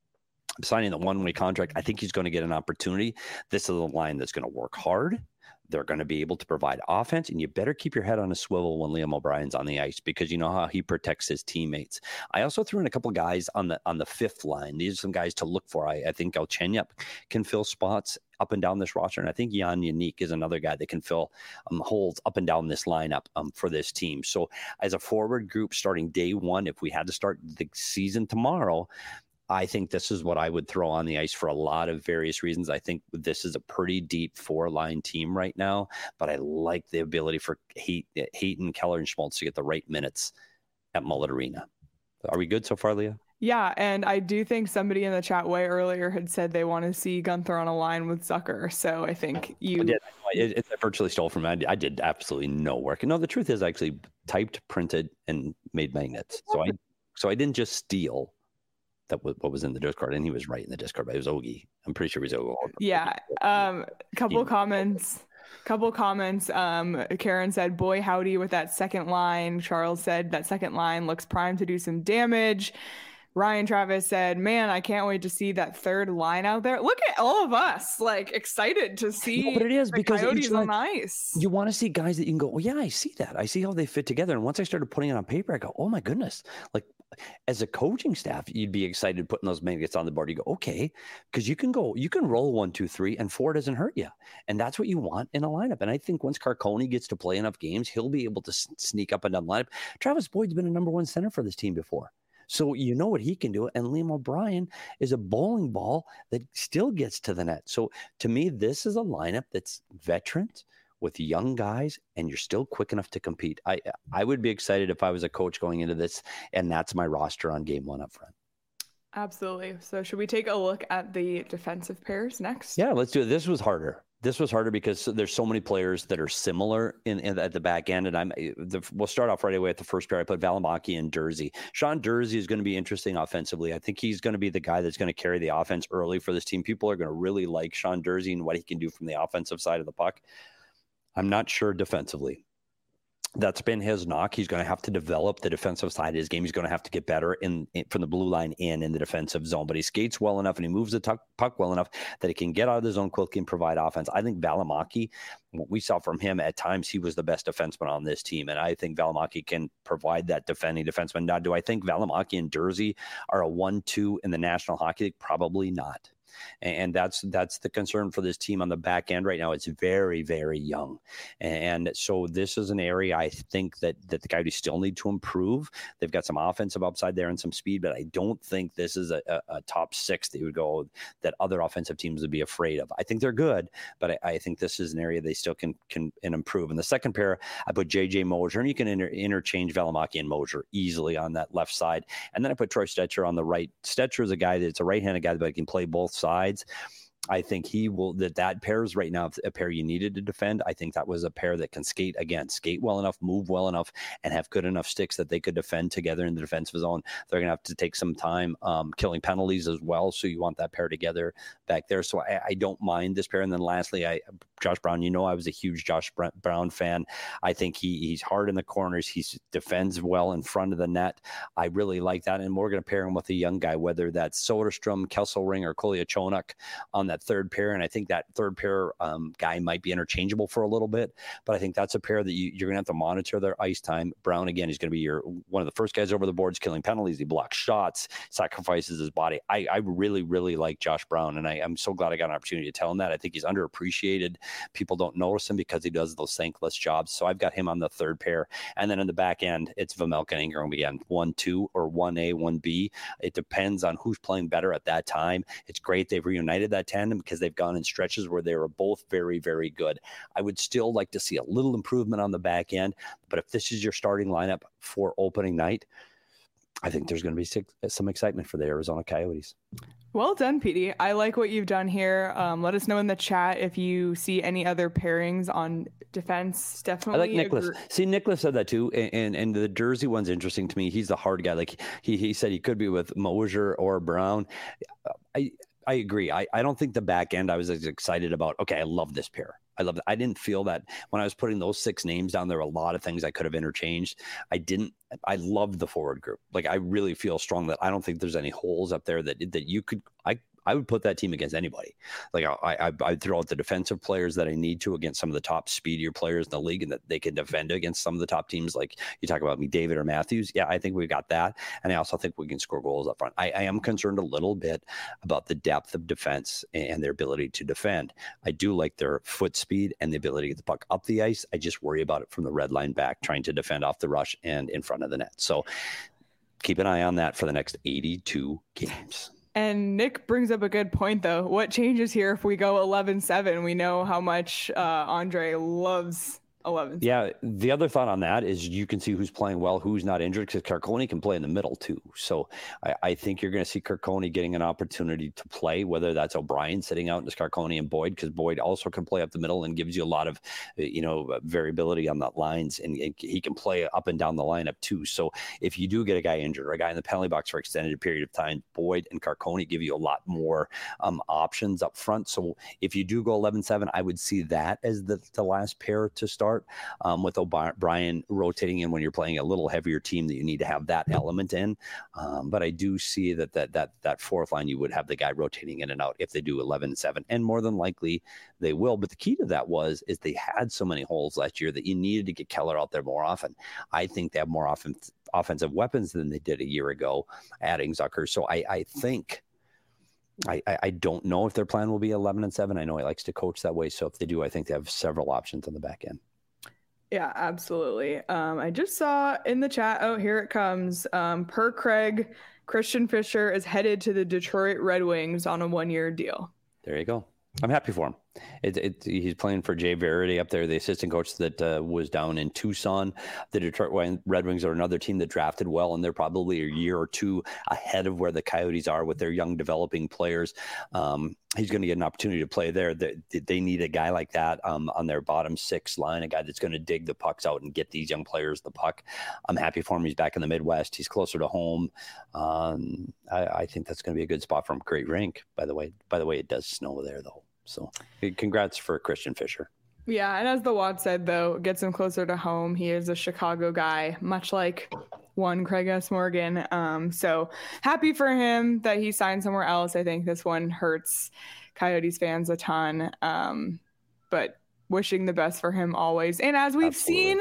signing the one-way contract. I think he's going to get an opportunity. This is a line that's going to work hard. They're going to be able to provide offense, and you better keep your head on a swivel when Liam O'Brien's on the ice because you know how he protects his teammates. I also threw in a couple guys on the fifth line. These are some guys to look for. I think Galchenyuk can fill spots up and down this roster, and I think Jan Yannick is another guy that can fill holes up and down this lineup for this team. So as a forward group starting day one, if we had to start the season tomorrow, I think this is what I would throw on the ice for a lot of various reasons. I think this is a pretty deep four-line team right now, but I like the ability for Hayton, Keller, and Schmaltz to get the right minutes at Mullet Arena. Are we good so far, Leah? Yeah, and I do think somebody in the chat way earlier had said they want to see Guenther on a line with Zucker. So I think you... I virtually stole from me. I did absolutely no work. No, the truth is I actually typed, printed, and made magnets. So I didn't just steal what was in the Discord, and he was right in the Discord, but it was Ogie. I'm pretty sure it was Ogie. Yeah. Couple comments. Karen said, boy, howdy with that second line. Charles said that second line looks primed to do some damage. Ryan Travis said, man, I can't wait to see that third line out there. Look at all of us, like, excited to see but it is because Coyotes on ice. You want to see guys that you can go, well, yeah, I see that. I see how they fit together. And once I started putting it on paper, I go, oh my goodness. Like, as a coaching staff, you'd be excited putting those magnets on the board. You go, okay, because you can roll 1, 2, 3, and 4 doesn't hurt you. And that's what you want in a lineup. And I think once Carcone gets to play enough games, he'll be able to sneak up and down the lineup. Travis Boyd's been a number one center for this team before. So you know what he can do. And Liam O'Brien is a bowling ball that still gets to the net. So to me, this is a lineup that's veterans with young guys, and you're still quick enough to compete. I would be excited if I was a coach going into this, and that's my roster on game one up front. Absolutely. So should we take a look at the defensive pairs next? Yeah, let's do it. This was harder because there's so many players that are similar at the back end. And we'll start off right away at the first pair. I put Valimaki and Durzi. Sean Durzi is going to be interesting offensively. I think he's going to be the guy that's going to carry the offense early for this team. People are going to really like Sean Durzi and what he can do from the offensive side of the puck. I'm not sure defensively. That's been his knock. He's going to have to develop the defensive side of his game. He's going to have to get better from the blue line in the defensive zone. But he skates well enough and he moves the puck well enough that he can get out of the zone quickly and provide offense. I think Valimaki, what we saw from him at times, he was the best defenseman on this team. And I think Valimaki can provide that defending defenseman. Now, do I think Valimaki and Durzi are a 1-2 in the National Hockey League? Probably not. And that's the concern for this team on the back end right now. It's very, very young. And so this is an area I think that the Coyotes still need to improve. They've got some offensive upside there and some speed, but I don't think this is a top six that you would go that other offensive teams would be afraid of. I think they're good, but I think this is an area they still can improve. In the second pair, I put JJ Moser, and you can interchange Valimaki and Moser easily on that left side. And then I put Troy Stecher on the right. Stecher is a guy that's a right-handed guy, but he can play both sides. I think he will, that pair is right now a pair you needed to defend. I think that was a pair that can skate well enough, move well enough, and have good enough sticks that they could defend together in the defensive zone. They're going to have to take some time killing penalties as well. So you want that pair together back there. So I don't mind this pair. And then lastly, Josh Brown, I was a huge Josh Brown fan. I think he's hard in the corners. He defends well in front of the net. I really like that. And we're going to pair him with a young guy, whether that's Soderstrom, Kesselring, or Kolyachonok on that third pair. And I think that third pair guy might be interchangeable for a little bit, but I think that's a pair that you're going to have to monitor their ice time. Brown, again, is going to be one of the first guys over the boards, killing penalties. He blocks shots, sacrifices his body. I really, really like Josh Brown, and I'm so glad I got an opportunity to tell him that. I think he's underappreciated. People don't notice him because he does those thankless jobs. So I've got him on the third pair. And then in the back end, it's Vejmelka and Ingram again, 1-2 or 1A, 1B. It depends on who's playing better at that time. It's great they've reunited that tandem because they've gone in stretches where they were both very, very good. I would still like to see a little improvement on the back end, but if this is your starting lineup for opening night, I think there's going to be some excitement for the Arizona Coyotes. Well done, Petey. I like what you've done here. Let us know in the chat if you see any other pairings on defense. Definitely. I like Nicholas. See, Nicholas said that too. And the Durzi one's interesting to me. He's the hard guy. Like he said he could be with Moser or Brown. I agree. I don't think the back end I was as excited about. Okay, I love this pair. I love that. I didn't feel that when I was putting those 6 names down, there were a lot of things I could have interchanged. I loved the forward group. Like, I really feel strong that I don't think there's any holes up there that you could, I would put that team against anybody. Like I'd throw out the defensive players that I need to against some of the top speedier players in the league, and that they can defend against some of the top teams. Like you talk about McDavid or Matthews. Yeah, I think we've got that. And I also think we can score goals up front. I am concerned a little bit about the depth of defense and their ability to defend. I do like their foot speed and the ability to get the puck up the ice. I just worry about it from the red line back, trying to defend off the rush and in front of the net. So keep an eye on that for the next 82 games. And Nick brings up a good point, though. What changes here if we go 11-7? We know how much Andre loves 11. Yeah, the other thought on that is you can see who's playing well, who's not injured, because Carconi can play in the middle too. So I think you're going to see Carconi getting an opportunity to play, whether that's O'Brien sitting out into Carconi and Boyd, because Boyd also can play up the middle and gives you a lot of variability on that lines, and he can play up and down the lineup too. So if you do get a guy injured or a guy in the penalty box for extended period of time, Boyd and Carconi give you a lot more options up front. So if you do go 11-7, I would see that as the last pair to start. With O'Brien rotating in when you're playing a little heavier team, that you need to have that element in. But I do see that fourth line, you would have the guy rotating in and out if they do 11-7, and more than likely they will. But the key to that is they had so many holes last year that you needed to get Keller out there more often. I think they have more offensive weapons than they did a year ago, adding Zucker. So I think. I don't know if their plan will be 11-7. I know he likes to coach that way. So if they do, I think they have several options on the back end. Yeah, absolutely. I just saw in the chat, here it comes. Per Craig, Christian Fischer is headed to the Detroit Red Wings on a 1-year deal. There you go. I'm happy for him. He's playing for Jay Verity up there, the assistant coach that was down in Tucson. The Detroit Red Wings are another team that drafted well, and they're probably a year or two ahead of where the Coyotes are with their young developing players. He's going to get an opportunity to play there. They need a guy like that on their bottom 6 line, a guy that's going to dig the pucks out and get these young players the puck. I'm happy for him. He's back in the Midwest. He's closer to home. I think that's going to be a good spot for him. Great rink, by the way. By the way, it does snow there, though. So congrats for Christian Fischer. Yeah, and as the Wad said, though, it gets him closer to home. He is a Chicago guy, much like one Craig S. Morgan. So happy for him that he signed somewhere else. I think this one hurts Coyotes fans a ton, but wishing the best for him always. And as we've seen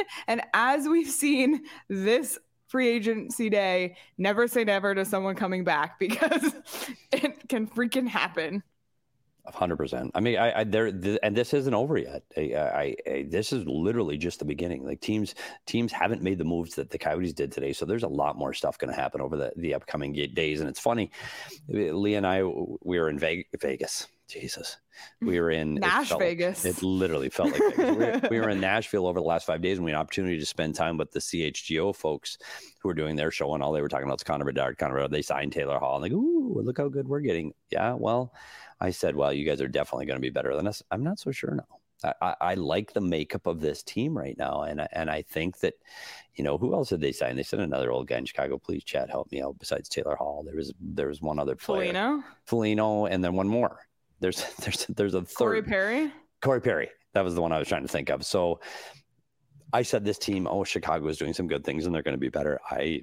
this free agency day, never say never to someone coming back, because it can freaking happen. 100%. I mean, and this isn't over yet. This is literally just the beginning. Like teams haven't made the moves that the Coyotes did today. So there's a lot more stuff going to happen over the upcoming days. And it's funny, Lee and I, we were in Vegas. Jesus. We were in Vegas. It literally felt like Vegas. We were in Nashville over the last 5 days, and we had an opportunity to spend time with the CHGO folks who were doing their show, and all they were talking about was Connor Bedard. They signed Taylor Hall. And like, ooh, look how good we're getting. Yeah, well, I said, well, you guys are definitely going to be better than us. I'm not so sure now. I like the makeup of this team right now, and I think that, who else did they sign? They sent another old guy in Chicago. Please, Chad, help me out. Besides Taylor Hall, there was one other player, Foligno, and then one more. There's a third. Corey Perry. That was the one I was trying to think of. So I said this team, Chicago is doing some good things and they're going to be better. I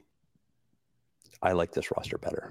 like this roster better.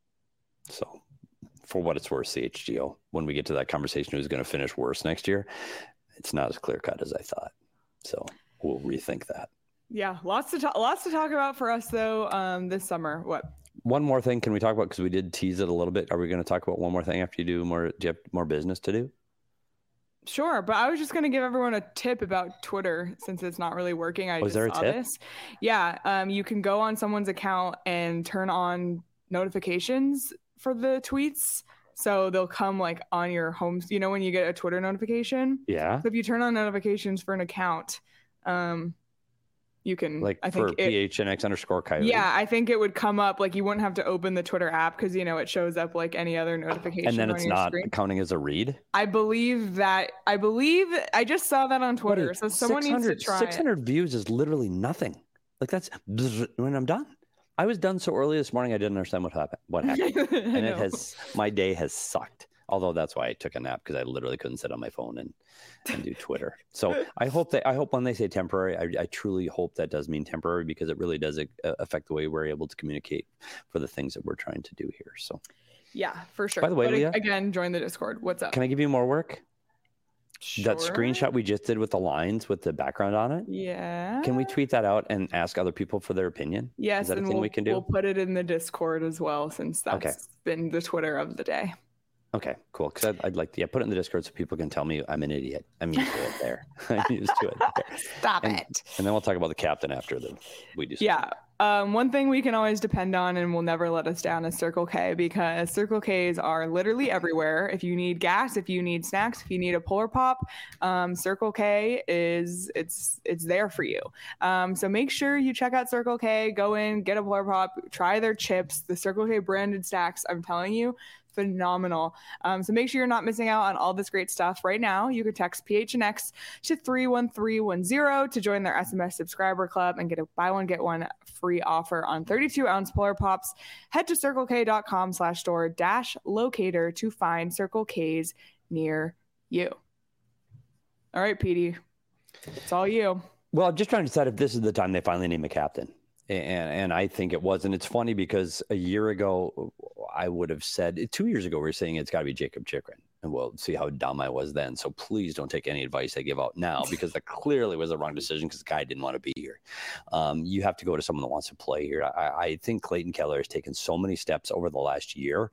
So for what it's worth, CHGO, when we get to that conversation, who's going to finish worse next year, it's not as clear cut as I thought. So we'll rethink that. Yeah. Lots to talk about for us though, this summer. What? One more thing can we talk about, because we did tease it a little bit. Are we going to talk about one more thing after you do more? Do you have more business to do? Sure, but I was just going to give everyone a tip about Twitter since it's not really working. I just saw this. Yeah, you can go on someone's account and turn on notifications for the tweets. So they'll come like on your home, when you get a Twitter notification. Yeah. So if you turn on notifications for an account, you can PHNX_Coyote. Yeah, I think it would come up like you wouldn't have to open the Twitter app because it shows up like any other notification. And then it's not screen. Counting as a read. I believe I just saw that on Twitter. So someone needs to try 600 views is literally nothing. Like that's when I'm done. I was done so early this morning I didn't understand what happened. And my day has sucked. Although that's why I took a nap, because I literally couldn't sit on my phone and do Twitter. So I hope when they say temporary, I truly hope that does mean temporary, because it really does affect the way we're able to communicate for the things that we're trying to do here. So yeah, for sure. By the way, Leah, again, join the Discord. What's up? Can I give you more work? Sure. That screenshot we just did with the lines with the background on it. Yeah. Can we tweet that out and ask other people for their opinion? Yes. Is that a thing we can do? We'll put it in the Discord as well, since that's been the Twitter of the day. Okay, cool. Because I'd like to put it in the Discord so people can tell me I'm an idiot. I'm used to it there. I'm used to it there. Stop it. And then we'll talk about the captain after we do. Yeah. One thing we can always depend on and will never let us down is Circle K, because Circle Ks are literally everywhere. If you need gas, if you need snacks, if you need a Polar Pop, Circle K it's there for you. So make sure you check out Circle K. Go in, get a Polar Pop, try their chips, the Circle K branded snacks. I'm telling you, phenomenal. So make sure you're not missing out on all this great stuff right now. You can text PHNX to 31310 to join their SMS subscriber club and get a buy one, get one free offer on 32-ounce Polar Pops. Head to circlek.com/store-locator to find Circle Ks near you. All right, Petey, it's all you. Well, I'm just trying to decide if this is the time they finally name a captain. And I think it was. And it's funny because a year ago, I would have said, 2 years ago, we were saying it's got to be Jacob Chychrun. And we'll see how dumb I was then. So please don't take any advice I give out now, because that clearly was the wrong decision, because the guy didn't want to be here. You have to go to someone that wants to play here. I think Clayton Keller has taken so many steps over the last year.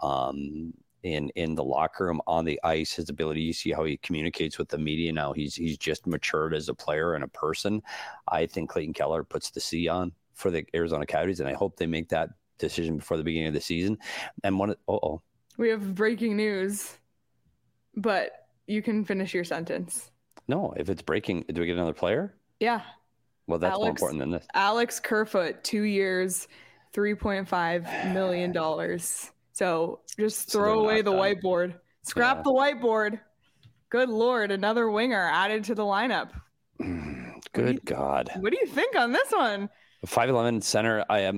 In the locker room, on the ice, his ability, you see how he communicates with the media now. He's just matured as a player and a person. I think Clayton Keller puts the C on for the Arizona Coyotes, and I hope they make that decision before the beginning of the season. And we have breaking news, but you can finish your sentence. No, if it's breaking, do we get another player? Yeah. Well, that's more important than this. Alex Kerfoot, 2 years, $3.5 million. So just throw away the whiteboard. Scrap the whiteboard. Good Lord, another winger added to the lineup. Good God. What do you think on this one? 5'11" center.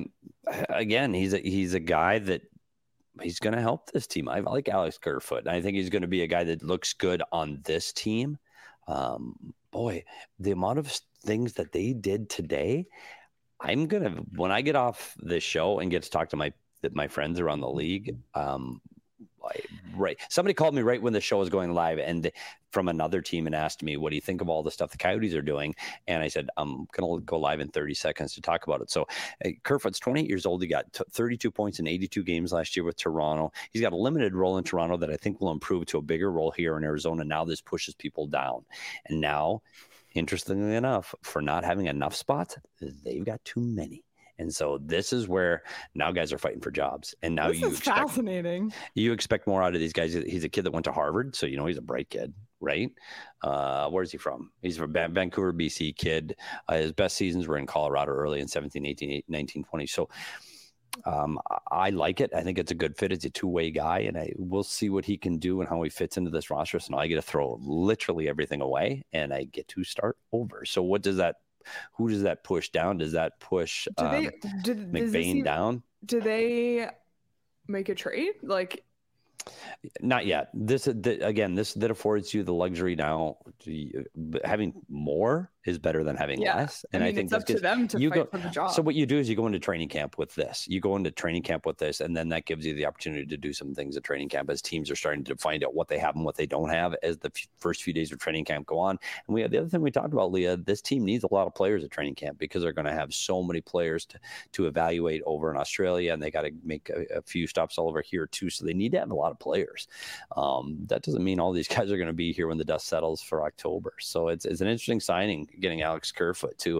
He's a guy that he's going to help this team. I like Alex Kerfoot. I think he's going to be a guy that looks good on this team. boy, the amount of things that they did today, when I get off this show and get to talk to my friends around the league, right. Somebody called me right when the show was going live and from another team and asked me, what do you think of all the stuff the Coyotes are doing? And I said, I'm going to go live in 30 seconds to talk about it. So Kerfoot's 28 years old. He got 32 points in 82 games last year with Toronto. He's got a limited role in Toronto that I think will improve to a bigger role here in Arizona. Now this pushes people down. And now, interestingly enough, for not having enough spots, they've got too many. And so this is where now guys are fighting for jobs. And now fascinating. You expect more out of these guys. He's a kid that went to Harvard, so he's a bright kid, right? Where's he from? He's from Vancouver, BC kid. His best seasons were in Colorado early in 17, 18, 19, 20. So I like it. I think it's a good fit. It's a two-way guy, and we'll see what he can do and how he fits into this roster. So now I get to throw literally everything away, and I get to start over. So who does that push down? Does that push McBain down? Do they make a trade? Not yet. That affords you the luxury now. Having more is better than having less. And I think it's up to them to fight for the job. So what you do is you go into training camp with this. And then that gives you the opportunity to do some things at training camp as teams are starting to find out what they have and what they don't have as the first few days of training camp go on. And the other thing we talked about, Leah, this team needs a lot of players at training camp because they're going to have so many players to evaluate over in Australia, and they got to make a few stops all over here too. So they need to have a lot of players. That doesn't mean all these guys are going to be here when the dust settles for October. So it's an interesting signing getting Alex Kerfoot too.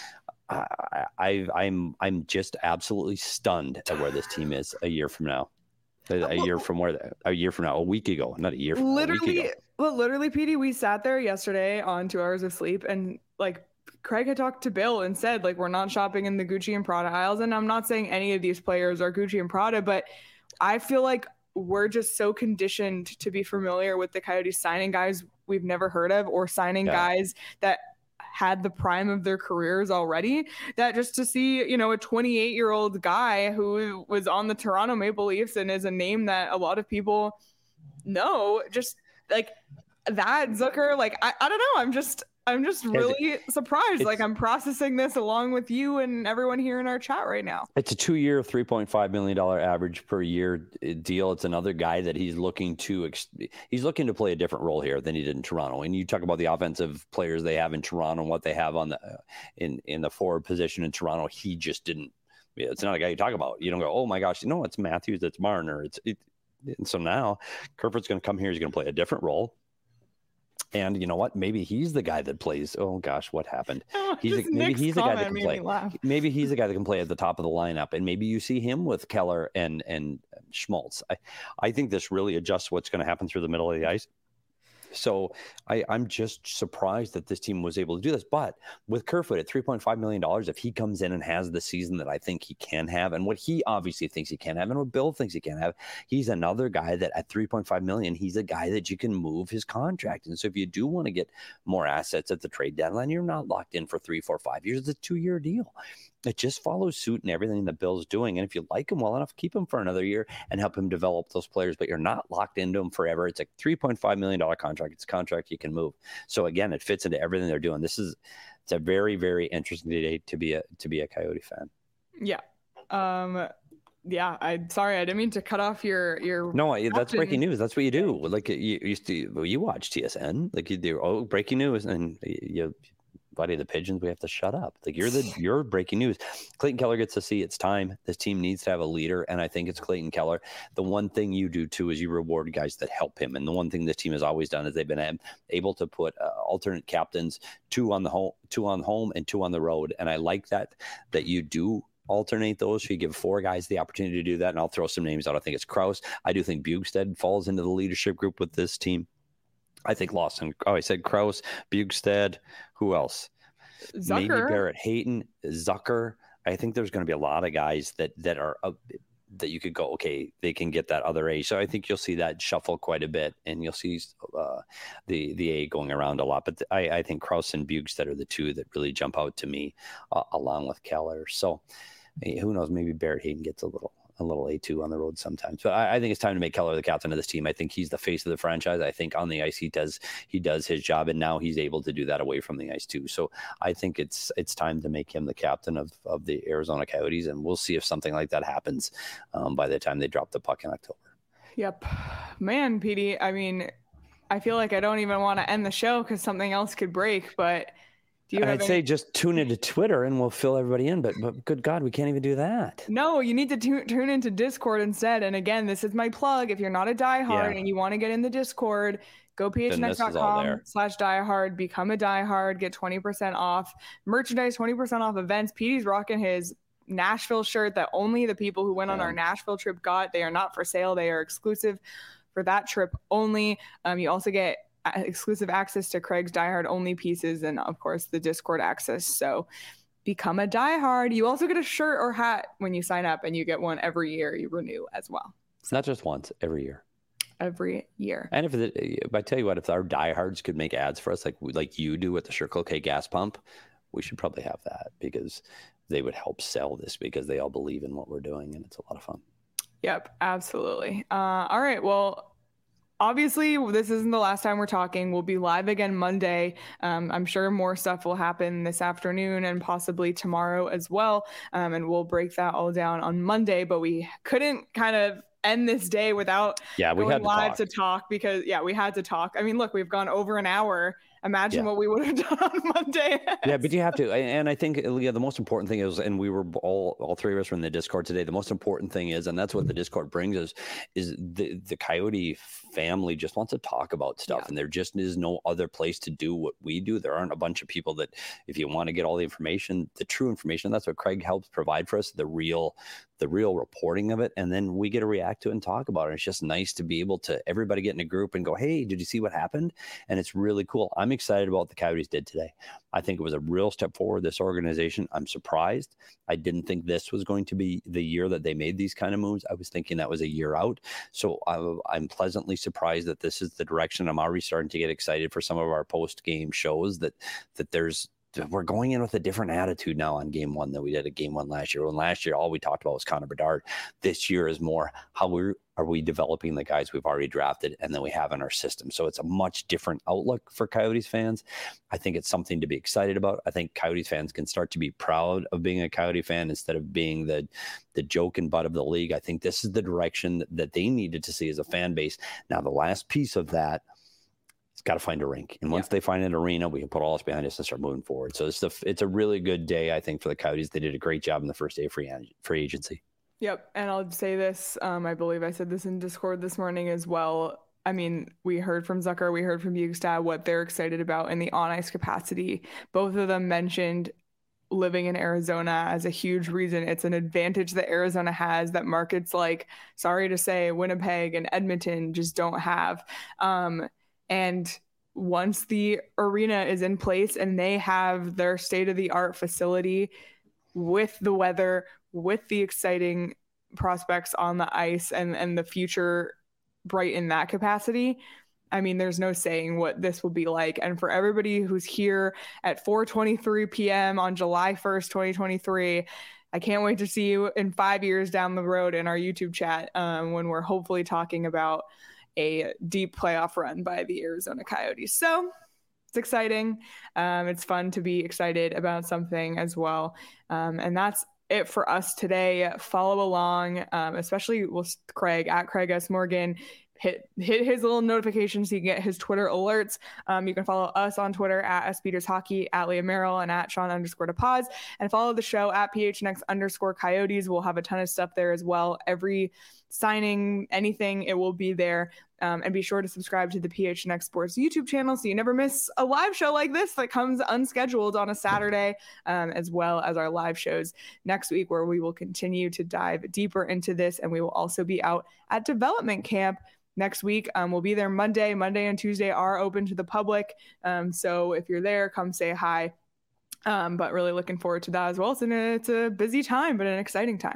I'm just absolutely stunned at where this team is a year from now. A week ago, not a year from literally, Petey, we sat there yesterday on 2 hours of sleep, and Craig had talked to Bill and said, we're not shopping in the Gucci and Prada aisles. And I'm not saying any of these players are Gucci and Prada, but I feel like we're just so conditioned to be familiar with the Coyotes signing guys we've never heard of or signing guys that had the prime of their careers already, that just to see, a 28-year-old guy who was on the Toronto Maple Leafs and is a name that a lot of people know, just that Zucker, I don't know. I'm just really surprised. I'm processing this along with you and everyone here in our chat right now. It's a 2-year, $3.5 million average per year deal. It's another guy that he's looking to play a different role here than he did in Toronto. And you talk about the offensive players they have in Toronto and what they have on the in the forward position in Toronto. He just didn't. It's not a guy you talk about. You don't go, oh my gosh, it's Matthews, it's Marner. And so now Kerfoot's going to come here. He's going to play a different role. And you know what? Maybe he's the guy that plays. Oh gosh, what happened? Maybe he's the guy that can play. Maybe he's the guy that can play at the top of the lineup, and maybe you see him with Keller and Schmaltz. I think this really adjusts what's going to happen through the middle of the ice. So I'm just surprised that this team was able to do this. But with Kerfoot at $3.5 million, if he comes in and has the season that I think he can have, and what he obviously thinks he can have, and what Bill thinks he can have, he's another guy that at $3.5 million, he's a guy that you can move his contract. And so if you do want to get more assets at the trade deadline, you're not locked in for 3, 4, 5 years. It's a 2-year deal. It just follows suit in everything that Bill's doing. And if you like him well enough, keep him for another year and help him develop those players, but you're not locked into him forever. It's a $3.5 million contract. It's a contract you can move. So again, it fits into everything they're doing. It's a very, very interesting day to be a Coyote fan. Yeah. Yeah. I'm sorry. I didn't mean to cut off your. No, that's breaking news. That's what you do. You watch TSN, you do. Oh, breaking news. And Buddy the Pigeons, we have to shut up. You're breaking news. Clayton Keller gets to see it's time. This team needs to have a leader, and I think it's Clayton Keller. The one thing you do too is you reward guys that help him, and the one thing this team has always done is they've been able to put alternate captains, 2 on home and 2 on the road, and I like that you do alternate those. So you give 4 guys the opportunity to do that, and I'll throw some names out. I think it's Krause. I do think Bjugstad falls into the leadership group with this team. I think Lawson. Oh, I said Krause, Bjugstad. Who else? Zucker. Maybe Barrett Hayton, Zucker. I think there's going to be a lot of guys that are that you could go, okay, they can get that other A. So I think you'll see that shuffle quite a bit, and you'll see the A going around a lot. But I think Krause and Bjugstad are the 2 that really jump out to me, along with Keller. So who knows? Maybe Barrett Hayton gets a little little A2 on the road sometimes. But I think it's time to make Keller the captain of this team. I think he's the face of the franchise. I think on the ice he does his job, and now he's able to do that away from the ice too. So I think it's time to make him the captain of the Arizona Coyotes, and we'll see if something like that happens by the time they drop the puck in October. Yep. Man, Petey, I mean, I feel like I don't even want to end the show because something else could break, but I'd say just tune into Twitter and we'll fill everybody in, but good God, we can't even do that. No, you need to tune into Discord instead. And again, this is my plug. If you're not a diehard and you want to get in the Discord, go phnx.com/diehard, become a diehard, get 20% off merchandise, 20% off events. Petey's rocking his Nashville shirt that only the people who went on our Nashville trip got. They are not for sale. They are exclusive for that trip only. You also get exclusive access to Craig's diehard only pieces and of course the Discord access. So become a diehard. You also get a shirt or hat when you sign up, and you get one every year you renew as well. It's not just once, every year. Every year. And if I tell you what, if our diehards could make ads for us like you do at the Circle K gas pump, we should probably have that, because they would help sell this, because they all believe in what we're doing and it's a lot of fun. Yep, absolutely. All right, well, obviously, this isn't the last time we're talking. We'll be live again Monday. I'm sure more stuff will happen this afternoon and possibly tomorrow as well. And we'll break that all down on Monday. But we couldn't kind of end this day without going live to talk because, we had to talk. I mean, look, we've gone over an hour. Imagine what we would have done on Monday. Yeah, but you have to. And I think the most important thing is, and we were all three of us were in the Discord today. The most important thing is, and that's what the Discord brings us, is the Coyote family just wants to talk about stuff. Yeah. And there just is no other place to do what we do. There aren't a bunch of people that, if you want to get all the information, the true information, that's what Craig helps provide for us, the real reporting of it. And then we get to react to it and talk about it. It's just nice to be able to everybody get in a group and go, hey, did you see what happened? And it's really cool. I'm excited about what the Coyotes did today. I think it was a real step forward, this organization. I'm surprised. I didn't think this was going to be the year that they made these kind of moves. I was thinking that was a year out. So I'm pleasantly surprised that this is the direction. I'm already starting to get excited for some of our post-game shows that we're going in with a different attitude now on game one than we did at game one last year. When last year, all we talked about was Connor Bedard. This year is more how are we developing the guys we've already drafted and then we have in our system. So it's a much different outlook for Coyotes fans. I think it's something to be excited about. I think Coyotes fans can start to be proud of being a Coyote fan instead of being the joke and butt of the league. I think this is the direction that they needed to see as a fan base. Now, the last piece of that, it's got to find a rink. And once they find an arena, we can put all this behind us and start moving forward. So it's a really good day, I think, for the Coyotes. They did a great job in the first day of free agency. Yep. And I'll say this, I believe I said this in Discord this morning as well. I mean, we heard from Zucker, we heard from Bjugstad what they're excited about in the on-ice capacity. Both of them mentioned living in Arizona as a huge reason. It's an advantage that Arizona has that markets like, sorry to say, Winnipeg and Edmonton just don't have. And once the arena is in place and they have their state-of-the-art facility with the weather, with the exciting prospects on the ice and the future bright in that capacity, I mean, there's no saying what this will be like. And for everybody who's here at 4:23 p.m. on July 1st, 2023, I can't wait to see you in 5 years down the road in our YouTube chat when we're hopefully talking about a deep playoff run by the Arizona Coyotes. So it's exciting. It's fun to be excited about something as well. And that's it for us today. Follow along, especially with Craig at Craig S. Morgan. Hit his little notifications so you can get his Twitter alerts. You can follow us on Twitter at SPetersHockey, at Leah Merrill, and at Sean_DePaz. And follow the show at PHNX_Coyotes. We'll have a ton of stuff there as well. Every signing, anything, it will be there. And be sure to subscribe to the PHNX Sports YouTube channel so you never miss a live show like this that comes unscheduled on a Saturday, as well as our live shows next week, where we will continue to dive deeper into this. And we will also be out at development camp next week. We'll be there Monday and Tuesday are open to the public. So if you're there, come say hi. But really looking forward to that as well. It's a busy time, but an exciting time.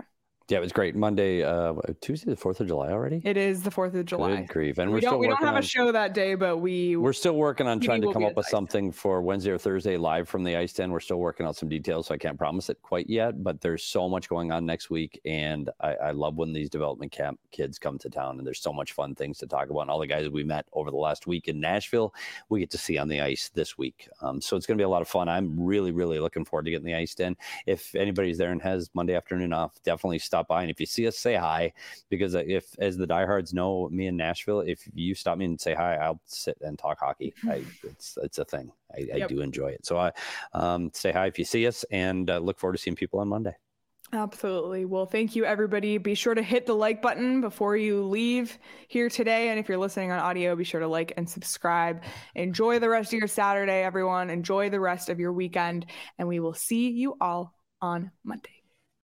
Yeah, it was great. Monday, Tuesday, the 4th of July already? It is the 4th of July. Good grief. And we don't have a show that day, but we're still working on trying to come up with something for Wednesday or Thursday live from the ice den. We're still working out some details, so I can't promise it quite yet, but there's so much going on next week. And I love when these development camp kids come to town, and there's so much fun things to talk about. And all the guys we met over the last week in Nashville, we get to see on the ice this week. So it's going to be a lot of fun. I'm really, really looking forward to getting the ice den. If anybody's there and has Monday afternoon off, definitely stop by. And if you see us, say hi, because if, as the diehards know, me in Nashville, if you stop me and say hi, I'll sit and talk hockey. It's a thing. I do enjoy it. So say hi if you see us, and look forward to seeing people on Monday. Absolutely. Well, thank you, everybody. Be sure to hit the like button before you leave here today. And if you're listening on audio, be sure to like and subscribe. Enjoy the rest of your Saturday, everyone. Enjoy the rest of your weekend. And we will see you all on Monday.